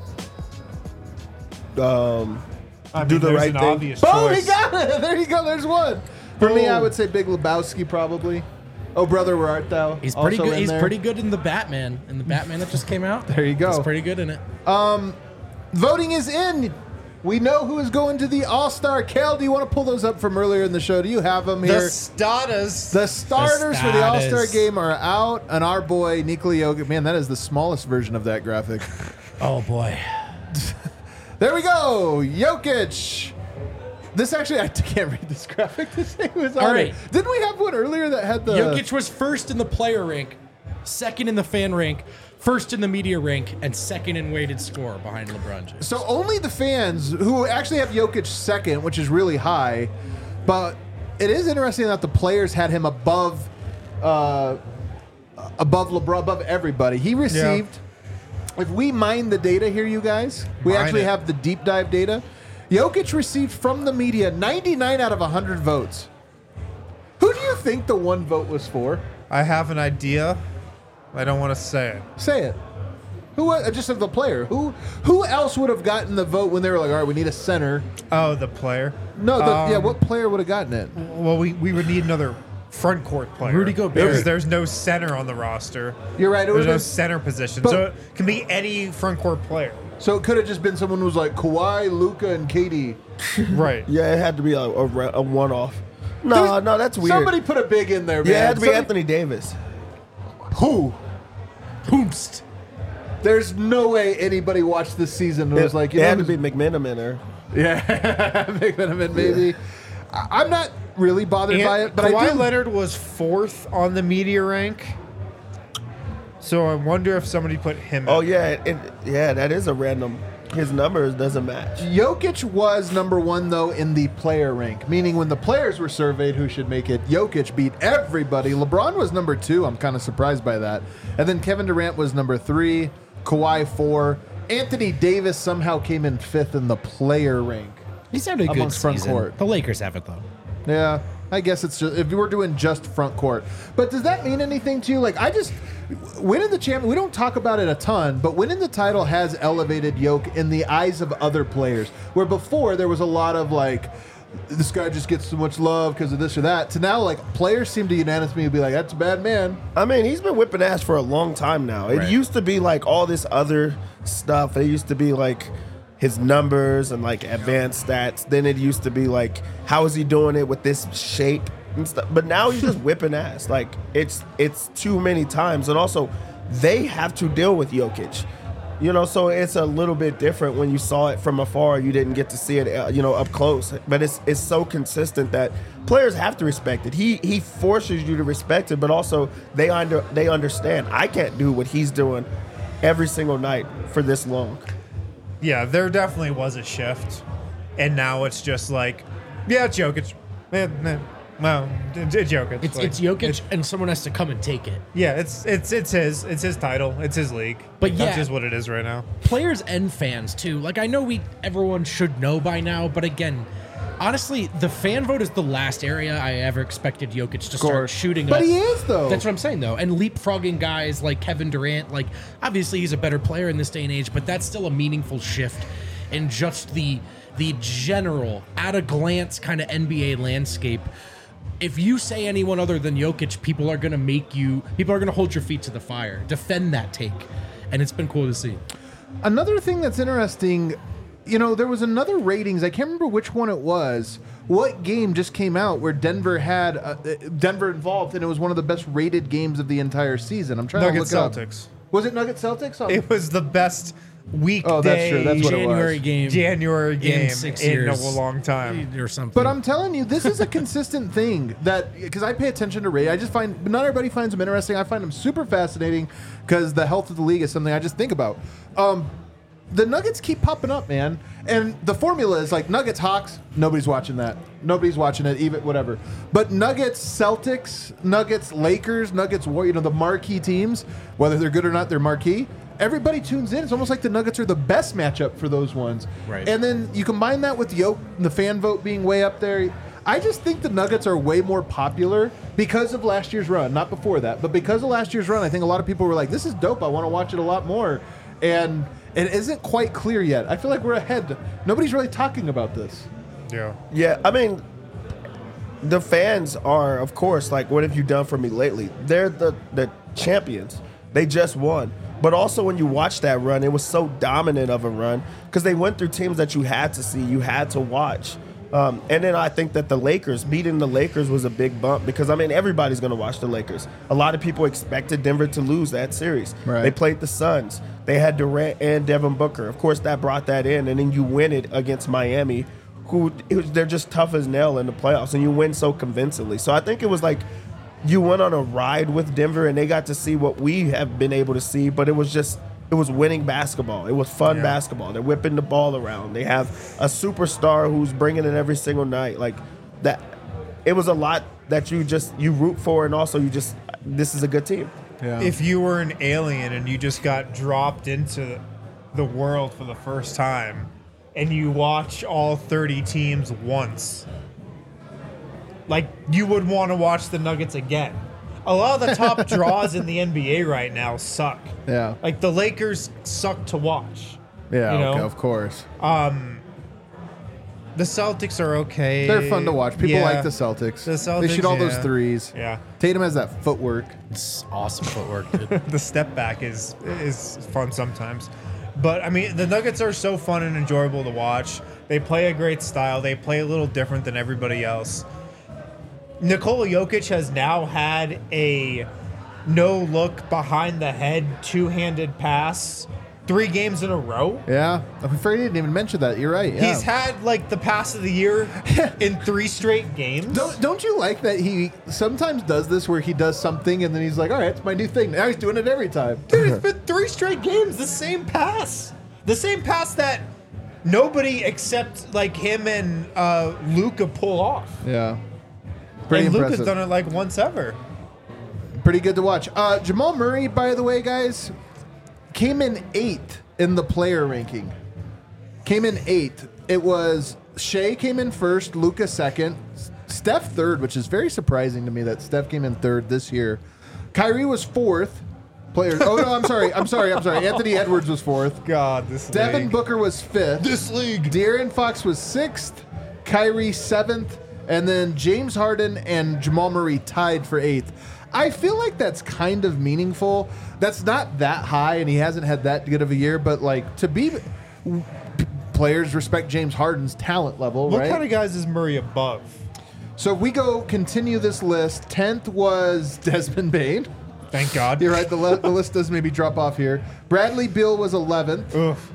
I Do mean, the there's right an thing. obvious Oh, he choice. got it. There you go. There's one. For me, Boom. I would say Big Lebowski, probably. Oh, Brother, Where Art Thou? He's pretty Also good. in He's there. pretty good in the Batman. In the Batman that just came out. There you go. He's pretty good in it. Voting is in. We know who is going to the All-Star. Kale, do you want to pull those up from earlier in the show? Do you have them The here? Status. The starters for the status. All-Star game are out, and our boy Nikola Jokic. Man, that is the smallest version of that graphic. Oh boy. There we go, Jokic. This actually, I can't read this graphic. This thing was on All it. right. Didn't we have one earlier that had the? Jokic was first in the player rank, second in the fan rank, first in the media rank, and second in weighted score behind LeBron James. So only the fans who actually have Jokic second, which is really high, but it is interesting that the players had him above LeBron, above everybody. He received. If we mine the data here, you guys, we Mine actually it. have the deep dive data. Jokic received from the media 99 out of 100 votes. Who do you think the one vote was for? I have an idea. I don't want to say it. Say it. Who? Just of the player. Who else would have gotten the vote when they were like, all right, we need a center? Oh, the player. No, yeah. What player would have gotten it? Well, we would need another front court player. Rudy Gobert. There's no center on the roster. You're right. It There's was no center position. But- So it can be any front court player. So it could have just been someone who was like Kawhi, Luka, and KD. Right. Yeah, it had to be a one-off. No, that's weird. Somebody put a big in there, man. yeah, it had to be Somebody- Anthony Davis. Who? Hoomst. There's no way anybody watched this season and was like, you it know, had to be McMenamin in there. yeah, McMenamin, maybe. I'm not really bothered by it, but Kawhi I do. Leonard was 4th on the media rank. So I wonder if somebody put him. Oh in. yeah, that is a random. His numbers doesn't match. Jokic was number 1 though in the player rank, meaning when the players were surveyed who should make it, Jokic beat everybody. LeBron was number 2. I'm kind of surprised by that. And then Kevin Durant was number 3, Kawhi 4. Anthony Davis somehow came in 5th in the player rank. He's had a good Amongst front season. court. The Lakers have it though. Yeah, I guess it's just if you were doing just front court. But does that mean anything to you? Like, I just winning the champion. We don't talk about it a ton, but winning the title has elevated Jokic in the eyes of other players. Where before there was a lot of like, this guy just gets so much love because of this or that. To now, like players seem to unanimously be like, that's a bad man. I mean, he's been whipping ass for a long time now. It Right. used to be like all this other stuff. It used to be like his numbers and like advanced stats. Then it used to be like, how is he doing it with this shape and stuff? But now he's just whipping ass. Like it's too many times. And also, they have to deal with Jokic. You know, so it's a little bit different when you saw it from afar. You didn't get to see it, up close. But it's so consistent that players have to respect it. He forces you to respect it, but also they understand. I can't do what he's doing every single night for this long. Yeah, there definitely was a shift, and now it's just like, yeah, it's Jokic. Well, it's Jokic. It's Like, Jokic, and someone has to come and take it. Yeah, it's his title. It's his league. But That's yeah. just what it is right now. Players and fans too. Like I know everyone should know by now, but again, honestly, the fan vote is the last area I ever expected Jokic to start shooting But up. he is though. That's what I'm saying though, and leapfrogging guys like Kevin Durant. Like obviously he's a better player in this day and age, but that's still a meaningful shift in just the general at a glance kind of NBA landscape. If you say anyone other than Jokic, people are going to hold your feet to the fire. Defend that take. And it's been cool to see. Another thing that's interesting, there was another ratings. I can't remember which one it was. What game just came out where Denver had Denver involved, and it was one of the best rated games of the entire season. I'm trying Nuggets to look Celtics. Up. Was it Nuggets Celtics? Oh. It was the best weekday Oh, that's true. That's what it was. January game game in 6 in years a long time. or something. But I'm telling you, this is a consistent thing because I pay attention to Ray. I just find not everybody finds them interesting. I find them super fascinating because the health of the league is something I just think about. The Nuggets keep popping up, man, and the formula is like Nuggets Hawks. Nobody's watching that. Nobody's watching it, even whatever. But Nuggets Celtics, Nuggets Lakers, Nuggets Warriors, the marquee teams, whether they're good or not, they're marquee. Everybody tunes in. It's almost like the Nuggets are the best matchup for those ones. Right. And then you combine that with the fan vote being way up there. I just think the Nuggets are way more popular because of last year's run. Not before that, but because of last year's run, I think a lot of people were like, this is dope. I want to watch it a lot more. And it isn't quite clear yet. I feel like we're ahead. Nobody's really talking about this. Yeah. Yeah, I mean, the fans are, of course, like, what have you done for me lately? They're the champions. They just won. But also when you watch that run, it was so dominant of a run because they went through teams that you had to see, you had to watch. And then I think that beating the Lakers was a big bump because, I mean, everybody's going to watch the Lakers. A lot of people expected Denver to lose that series. Right. They played the Suns. They had Durant and Devin Booker. Of course, that brought that in. And then you win it against Miami, they're just tough as nail in the playoffs, and you win so convincingly. So I think it was like you went on a ride with Denver, and they got to see what we have been able to see, but it was winning basketball. It was fun basketball. They're whipping the ball around. They have a superstar who's bringing it every single night. Like that, it was a lot that you root for, and also this is a good team. Yeah. If you were an alien and you just got dropped into the world for the first time and you watch all 30 teams once, like, you would want to watch the Nuggets again. A lot of the top draws in the NBA right now suck. Yeah. Like, the Lakers suck to watch. Yeah, you know? okay, of course. The Celtics are okay. They're fun to watch. People Yeah. like the Celtics. The Celtics, They shoot all those yeah. threes. Yeah. Tatum has that footwork. It's awesome footwork, dude. The step back is fun sometimes. But I mean, the Nuggets are so fun and enjoyable to watch. They play a great style. They play a little different than everybody else. Nikola Jokic has now had a no-look behind the head two-handed pass 3 games in a row. Yeah. I'm afraid he didn't even mention that. You're right. Yeah. He's had like the pass of the year in 3 straight games. Don't you like that he sometimes does this where he does something and then he's like, all right, it's my new thing. Now he's doing it every time. Dude, it's been 3 straight games, the same pass. The same pass that nobody except like him and Luka pull off. Yeah. Pretty and impressive. Luka's done it like once ever. Pretty good to watch. Jamal Murray, by the way, guys, came in 8th in the player ranking. Came in 8th. It was Shea came in first, Luka second, Steph third, which is very surprising to me that Steph came in third this year. Kyrie was 4th. Player. Oh no, I'm sorry. Anthony Edwards was 4th. God, this Devin league. Booker was 5th. This league. De'Aaron Fox was 6th. Kyrie 7th. And then James Harden and Jamal Murray tied for 8th. I feel like that's kind of meaningful. That's not that high, and he hasn't had that good of a year. But like to be, players respect James Harden's talent level, What right? kind of guys is Murray above? So if we continue this list. 10th was Desmond Bane. Thank God. You're right. The list does maybe drop off here. Bradley Beal was 11th. Oof.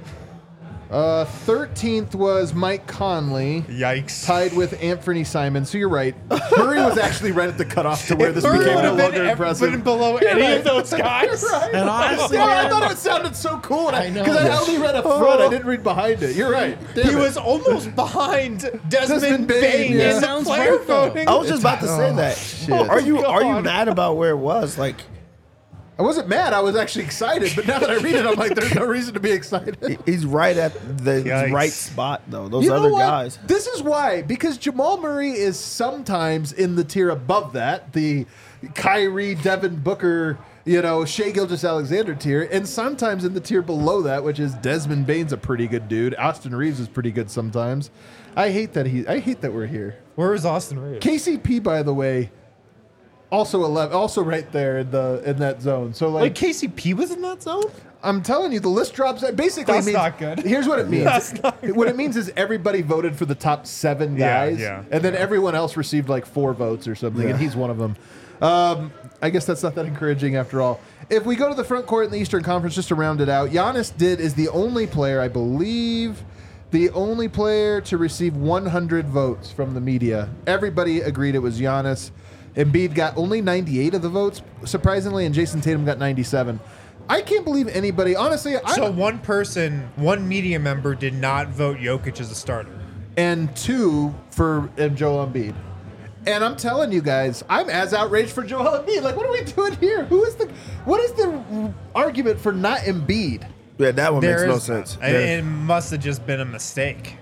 13th was Mike Conley. Yikes. Tied with Anthony Simon. So you're right. Murray was actually right at the cutoff to where this Murray became would no have been longer impressive. below any of those guys. And honestly, I man, thought it sounded so cool. I know. Because I only read up front. I didn't read behind it. You're right. Damn He it. was almost behind Desmond Desmond Bane, Bane yeah. in the Sounds player right, though. voting. I was just about to say that. shit. Are you God. mad about where it was? Like I wasn't mad. I was actually excited. But now that I read it, I'm like, there's no reason to be excited. he's right at the Yikes. right spot though. Those You know other what? guys. This is why. Because Jamal Murray is sometimes in the tier above that. The Kyrie, Devin Booker, Shea Gilgeous-Alexander tier. And sometimes in the tier below that, which is Desmond Bane's a pretty good dude. Austin Reeves is pretty good sometimes. I hate that we're here. Where is Austin Reeves? KCP, by the way, also 11, also right there in that zone. So Like KCP was in that zone? I'm telling you, the list drops. Basically, That's means, not good. Here's what it means. That's not What it means is everybody voted for the top 7 Yeah, guys, yeah, and then everyone else received like 4 votes or something, and he's one of them. I guess that's not that encouraging after all. If we go to the front court in the Eastern Conference, just to round it out, Giannis is the only player, I believe, the only player to receive 100 votes from the media. Everybody agreed it was Giannis. Embiid got only 98 of the votes, surprisingly, and Jason Tatum got 97. I can't believe anybody, honestly. So one media member did not vote Jokic as a starter. And 2 for Joel Embiid. And I'm telling you guys, I'm as outraged for Joel Embiid. Like, what are we doing here? What is the argument for not Embiid? Yeah, that one makes no There's- sense. It must have just been a mistake.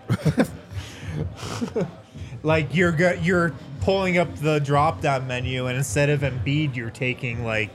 Like you're pulling up the drop-down menu, and instead of Embiid, you're taking like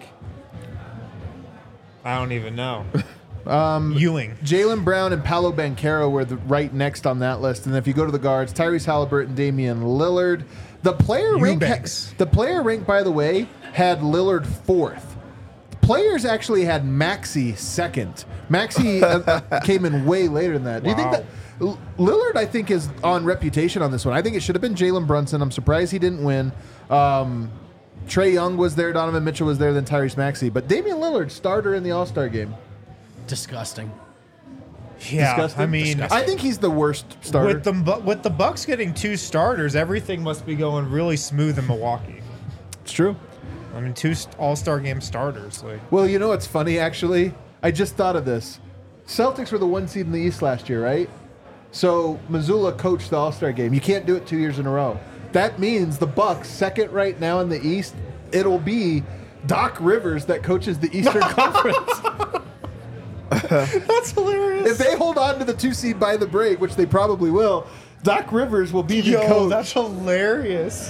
I don't even know. Ewing. Jaylen Brown and Paolo Banchero were right next on that list. And if you go to the guards, Tyrese Halliburton, Damian Lillard. The player rank, by the way, had Lillard 4th. Players actually had Maxey 2nd. Maxey came in way later than that. Do you think Wow. that Lillard, I think, is on reputation on this one? I think it should have been Jalen Brunson. I'm surprised he didn't win. Trae Young was there, Donovan Mitchell was there, then Tyrese Maxey. But Damian Lillard, starter in the All-Star game. disgusting. Yeah, Disgusting? I mean, I think he's the worst starter. with the Bucks getting 2 starters, everything must be going really smooth in Milwaukee. It's true. I mean, 2 All-Star game starters. Like, Well, you know what's funny, actually? I just thought of this. Celtics were the 1 seed in the East last year, right? So Missoula coached the All-Star game. You can't do it 2 years in a row. That means the Bucks, second right now in the East, it'll be Doc Rivers that coaches the Eastern Conference. that's hilarious. If they hold on to the 2 seed by the break, which they probably will, Doc Rivers will be the coach. That's hilarious.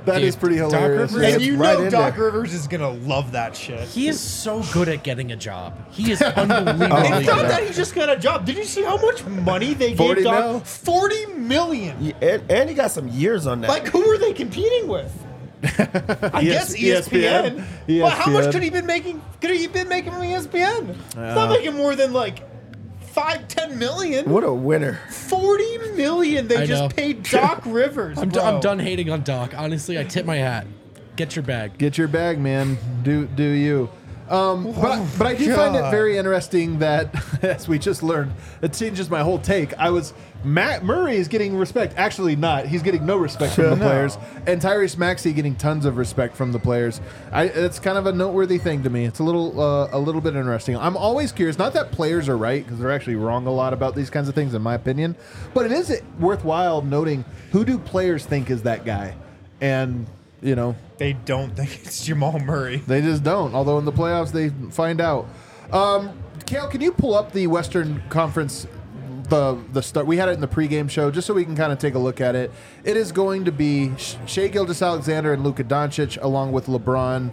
That is pretty hilarious. Rivers- And you right know in Doc there. Rivers is gonna love that shit. He is so good at getting a job. He is unbelievably It's not good. that he just got a job. Did you see how much money they 40 gave Doc? mil? $40 million. Yeah, and he got some years on that. Like, who are they competing with? I guess ESPN. ESPN. But how much could he been making? Could he been making from ESPN? He's not making more than like 5-10 million. What a winner. 40 million they I just know. paid Doc Rivers. I'm bro. done hating on Doc. Honestly, I tip my hat. Get your bag. Get your bag, man. Do you? But I do find it God. very interesting that, as we just learned, it changes my whole take. Matt Murray is getting respect. Actually, not. He's getting no respect from the No. players, and Tyrese Maxey getting tons of respect from the players. It's kind of a noteworthy thing to me. It's a little bit interesting. I'm always curious. Not that players are right, because they're actually wrong a lot about these kinds of things, in my opinion. But it is worthwhile noting, who do players think is that guy, and They don't think it's Jamal Murray. they just don't. Although in the playoffs, they find out. Kale, can you pull up the Western Conference, the start? We had it in the pregame show, just so we can kind of take a look at it. It is going to be Shai Gilgeous-Alexander and Luka Doncic, along with LeBron,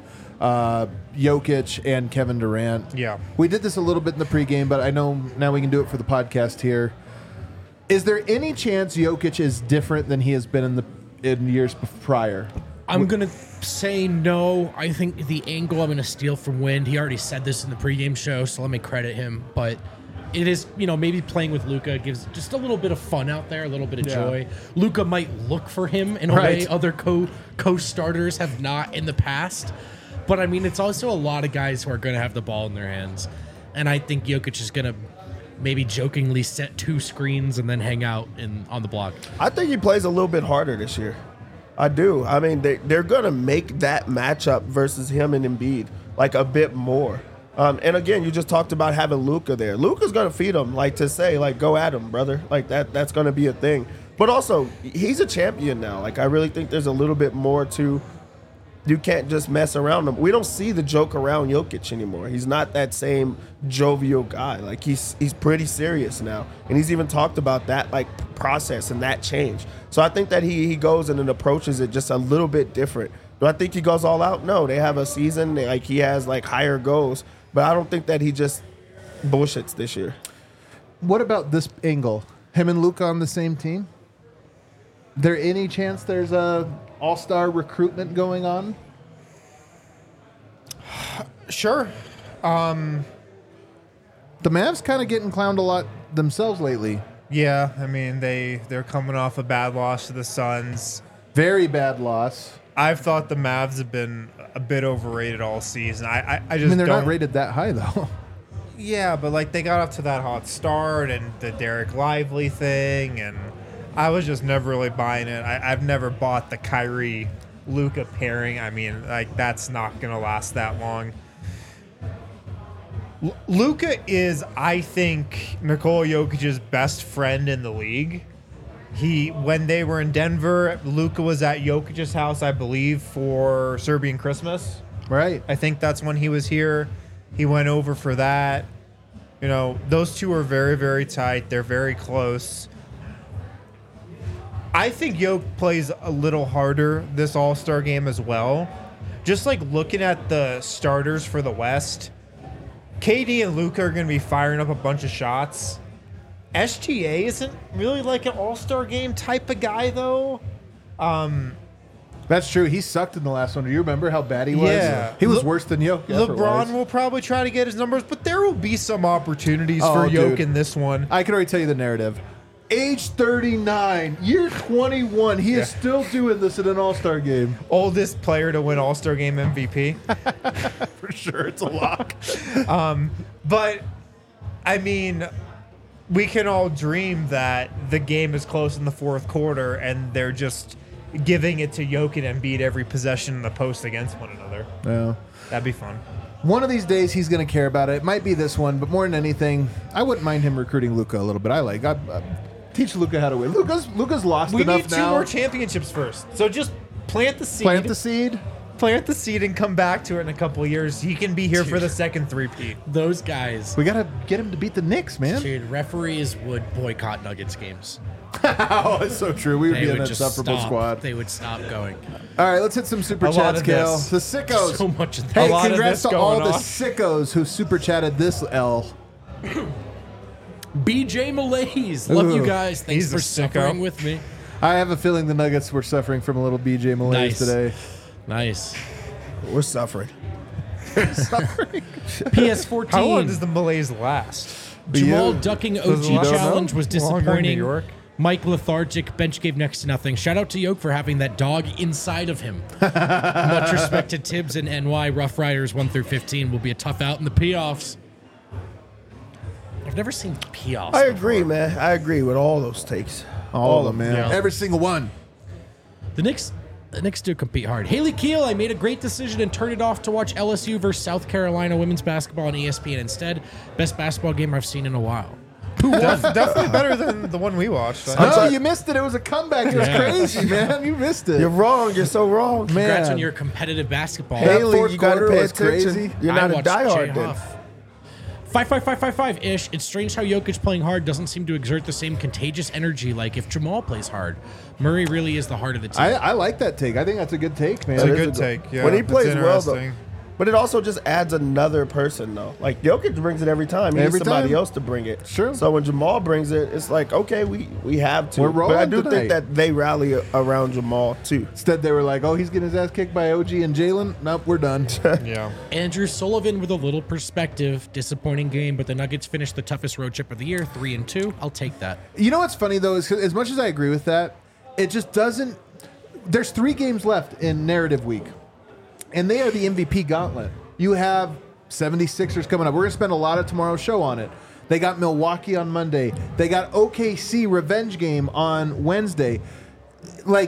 Jokic, and Kevin Durant. Yeah. We did this a little bit in the pregame, but I know now we can do it for the podcast here. Is there any chance Jokic is different than he has been in years prior? I'm going to say no. I think the angle I'm going to steal from Wind, he already said this in the pregame show, so let me credit him. But it is, maybe playing with Luka gives just a little bit of fun out there, a little bit of joy. Luka might look for him in a way other co-starters have not in the past. But, I mean, it's also a lot of guys who are going to have the ball in their hands. And I think Jokic is going to maybe jokingly set 2 screens and then hang out on the block. I think he plays a little bit harder this year. I do. I mean, they're going to make that matchup versus him and Embiid like a bit more. And again, you just talked about having Luka there. Luka's going to feed him, to say, go at him, brother. That's going to be a thing. But also, he's a champion now. I really think there's a little bit more to. You can't just mess around him. We don't see the joke around Jokic anymore. He's not that same jovial guy. He's pretty serious now. And he's even talked about that process and that change. So I think that he goes and approaches it just a little bit different. Do I think he goes all out? No. They have a season. He has higher goals. But I don't think that he just bullshits this year. What about this angle? Him and Luka on the same team? There any chance there's a all-star recruitment going on? Sure. The Mavs kind of getting clowned a lot themselves lately. Yeah, I mean, they're coming off a bad loss to the Suns. Very bad loss. I've thought the Mavs have been a bit overrated all season. I just They're don't. not rated that high, though. Yeah, but they got off to that hot start and the Derek Lively thing, and I was just never really buying it. I've never bought the Kyrie Luka pairing. I mean, that's not gonna last that long. Luka is, I think, Nikola Jokic's best friend in the league. When they were in Denver, Luka was at Jokic's house, I believe, for Serbian Christmas. Right. I think that's when he was here. He went over for that. Those two are very, very tight. They're very close. I think Jokic plays a little harder this All-Star game as well. Just looking at the starters for the West, KD and Luka are going to be firing up a bunch of shots. SGA isn't really an All-Star game type of guy, though. That's true. He sucked in the last one. Do you remember how bad he was? Yeah. He was worse than Jokic. LeBron will probably try to get his numbers, but there will be some opportunities for Jokic dude. in this one. I can already tell you the narrative. Age 39, year 21, he is still doing this in an All-Star game. Oldest player to win All-Star game MVP. For sure, it's a lock. But, I mean, we can all dream that the game is close in the fourth quarter and they're just giving it to Jokic and Embiid every possession in the post against one another. Yeah. That'd be fun. One of these days, he's going to care about it. It might be this one, but more than anything, I wouldn't mind him recruiting Luka a little bit. I teach Luka how to win. Luka's lost We enough need 2 now. more championships first. So just plant the seed. Plant the seed. Plant the seed and come back to it in a couple of years. He can be here for the second three-peat. Those guys, We got to get him to beat the Knicks, man. dude, referees would boycott Nuggets games. Oh, it's so true. We would They be in would that just sufferable stop. squad. They would stop going. All right, let's hit some super A lot chats, of Kale. this. The sickos. So much of Hey, A lot of congrats this to all going the on. sickos who super chatted this L. BJ Malaise. Love you guys. Thanks He's a for sicko. suffering with me. I have a feeling the Nuggets were suffering from a little BJ Malaise Nice. today. Nice. We're suffering. PS14. How long does the malaise last? Jamal You? ducking Does OG it last challenge long? was Longer in New disappointing. York? Mike lethargic. Bench gave next to nothing. Shout out to Yoke for having that dog inside of him. Much respect to Tibbs and NY. Rough Riders 1 through 15 will be a tough out in the playoffs. I've never seen playoffs. I agree, man. I agree with all those takes. All of them, man. Yeah. Every single one. The Knicks do compete hard. Haley Keel, I made a great decision and turned it off to watch LSU versus South Carolina women's basketball on ESPN instead. Best basketball game I've seen in a while. Definitely better than the one we watched. No, you missed it. It was a comeback. It was Yeah. crazy, man. You missed it. You're wrong. You're so wrong. Man. Congrats on your competitive basketball. Hey, Haley, fourth you got to quarter pay was attention. crazy. You're not I a watched diehard Jay then. Huff. 5-5-5-5-5-ish. It's strange how Jokic playing hard doesn't seem to exert the same contagious energy like if Jamal plays hard. Murray really is the heart of the team. I like that take. I think that's a good take, man. It's a That is good take. Yeah, when he it's plays well, though. interesting. But it also just adds another person, though. Like, Jokic brings it every time. He needs Every somebody time. else to bring it. Sure. So when Jamal brings it, it's like, okay, we have to. We're rolling but I do tonight. think that they rally around Jamal, too. Instead, they were like, oh, he's getting his ass kicked by OG and Jalen. Nope, we're done. Yeah. Andrew Sullivan with a little perspective. Disappointing game, but the Nuggets finished the toughest road trip of the year, 3-2. I'll take that. You know what's funny, though, is 'cause as much as I agree with that, it just doesn't. There's 3 games left in narrative week, and they are the MVP gauntlet. You have 76ers coming up. We're going to spend a lot of tomorrow's show on it. They got Milwaukee on Monday. They got OKC revenge game on Wednesday. Like,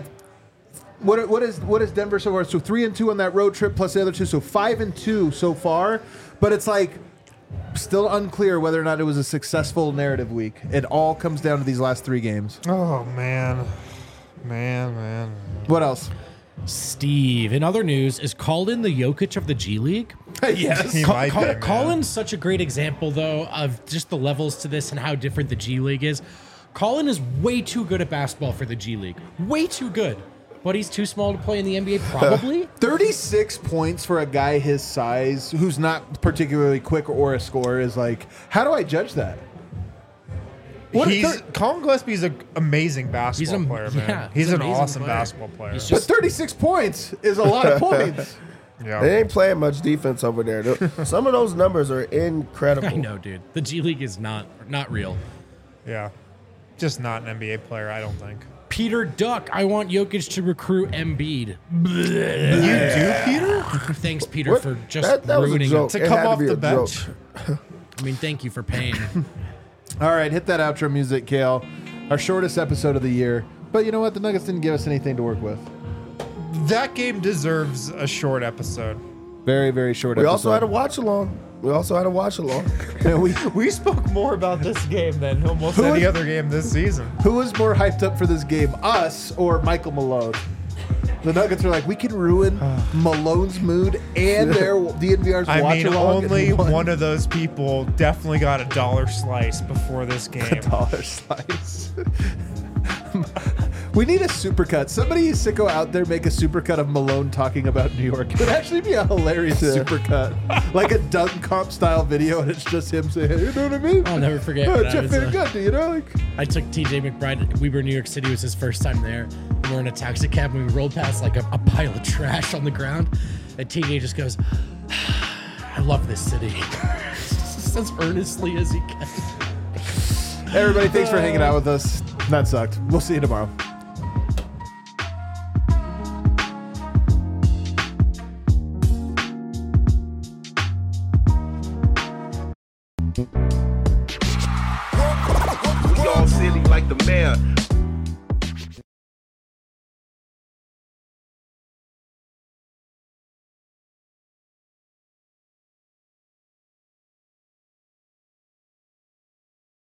what is Denver so far? So 3-2 on that road trip plus the other 2. So 5-2 so far. But it's like still unclear whether or not it was a successful narrative week. It all comes down to these last 3 games. Oh man. Man. What else? Steve, in other news, is Colin the Jokic of the G League? Yes. He might be, man. Colin's such a great example, though, of just the levels to this and how different the G League is. Colin is way too good at basketball for the G League. Way too good. But he's too small to play in the NBA, probably. 36 points for a guy his size who's not particularly quick or a scorer is like, how do I judge that? Colin Gillespie's an amazing basketball player, man. yeah, he's he's an an amazing awesome player. basketball player. He's But just 36 points is a lot of points. yeah. They ain't playing much defense over there. Some of those numbers are incredible. I know, dude. The G League is not real. Yeah. Just not an NBA player, I don't think. Peter Duck, I want Jokic to recruit Embiid. You do, Peter? Thanks, Peter, What? for just That was a ruining joke. it. To It come had to off be the a bench. joke. I mean, thank you for paying. All right, hit that outro music, Kale. Our shortest episode of the year. But you know what? The Nuggets didn't give us anything to work with. That game deserves a short episode. Very, very short We episode. also had a watch along. We spoke more about this game than almost Who any was- other game this season. Who was more hyped up for this game, us or Michael Malone? The Nuggets are like, we can ruin Malone's mood and their DNVR's I watch mean, along. only one of those people definitely got a dollar slice before this game. dollar slice. We need a supercut. Somebody sicko out there make a supercut of Malone talking about New York. It would actually be a hilarious supercut, like a Doug Comp style video, and it's just him saying, "You know what I mean?" I'll never forget. Oh, when I Jeff was, Van Gundy, you know, like I took TJ McBride. We were in New York City. It was his first time there. And we're in a taxi cab and we rolled past like a pile of trash on the ground. And TJ just goes, I love this city. Just as earnestly as he can. everybody. Thanks for hanging out with us. That sucked. We'll see you tomorrow. We all silly like the mayor.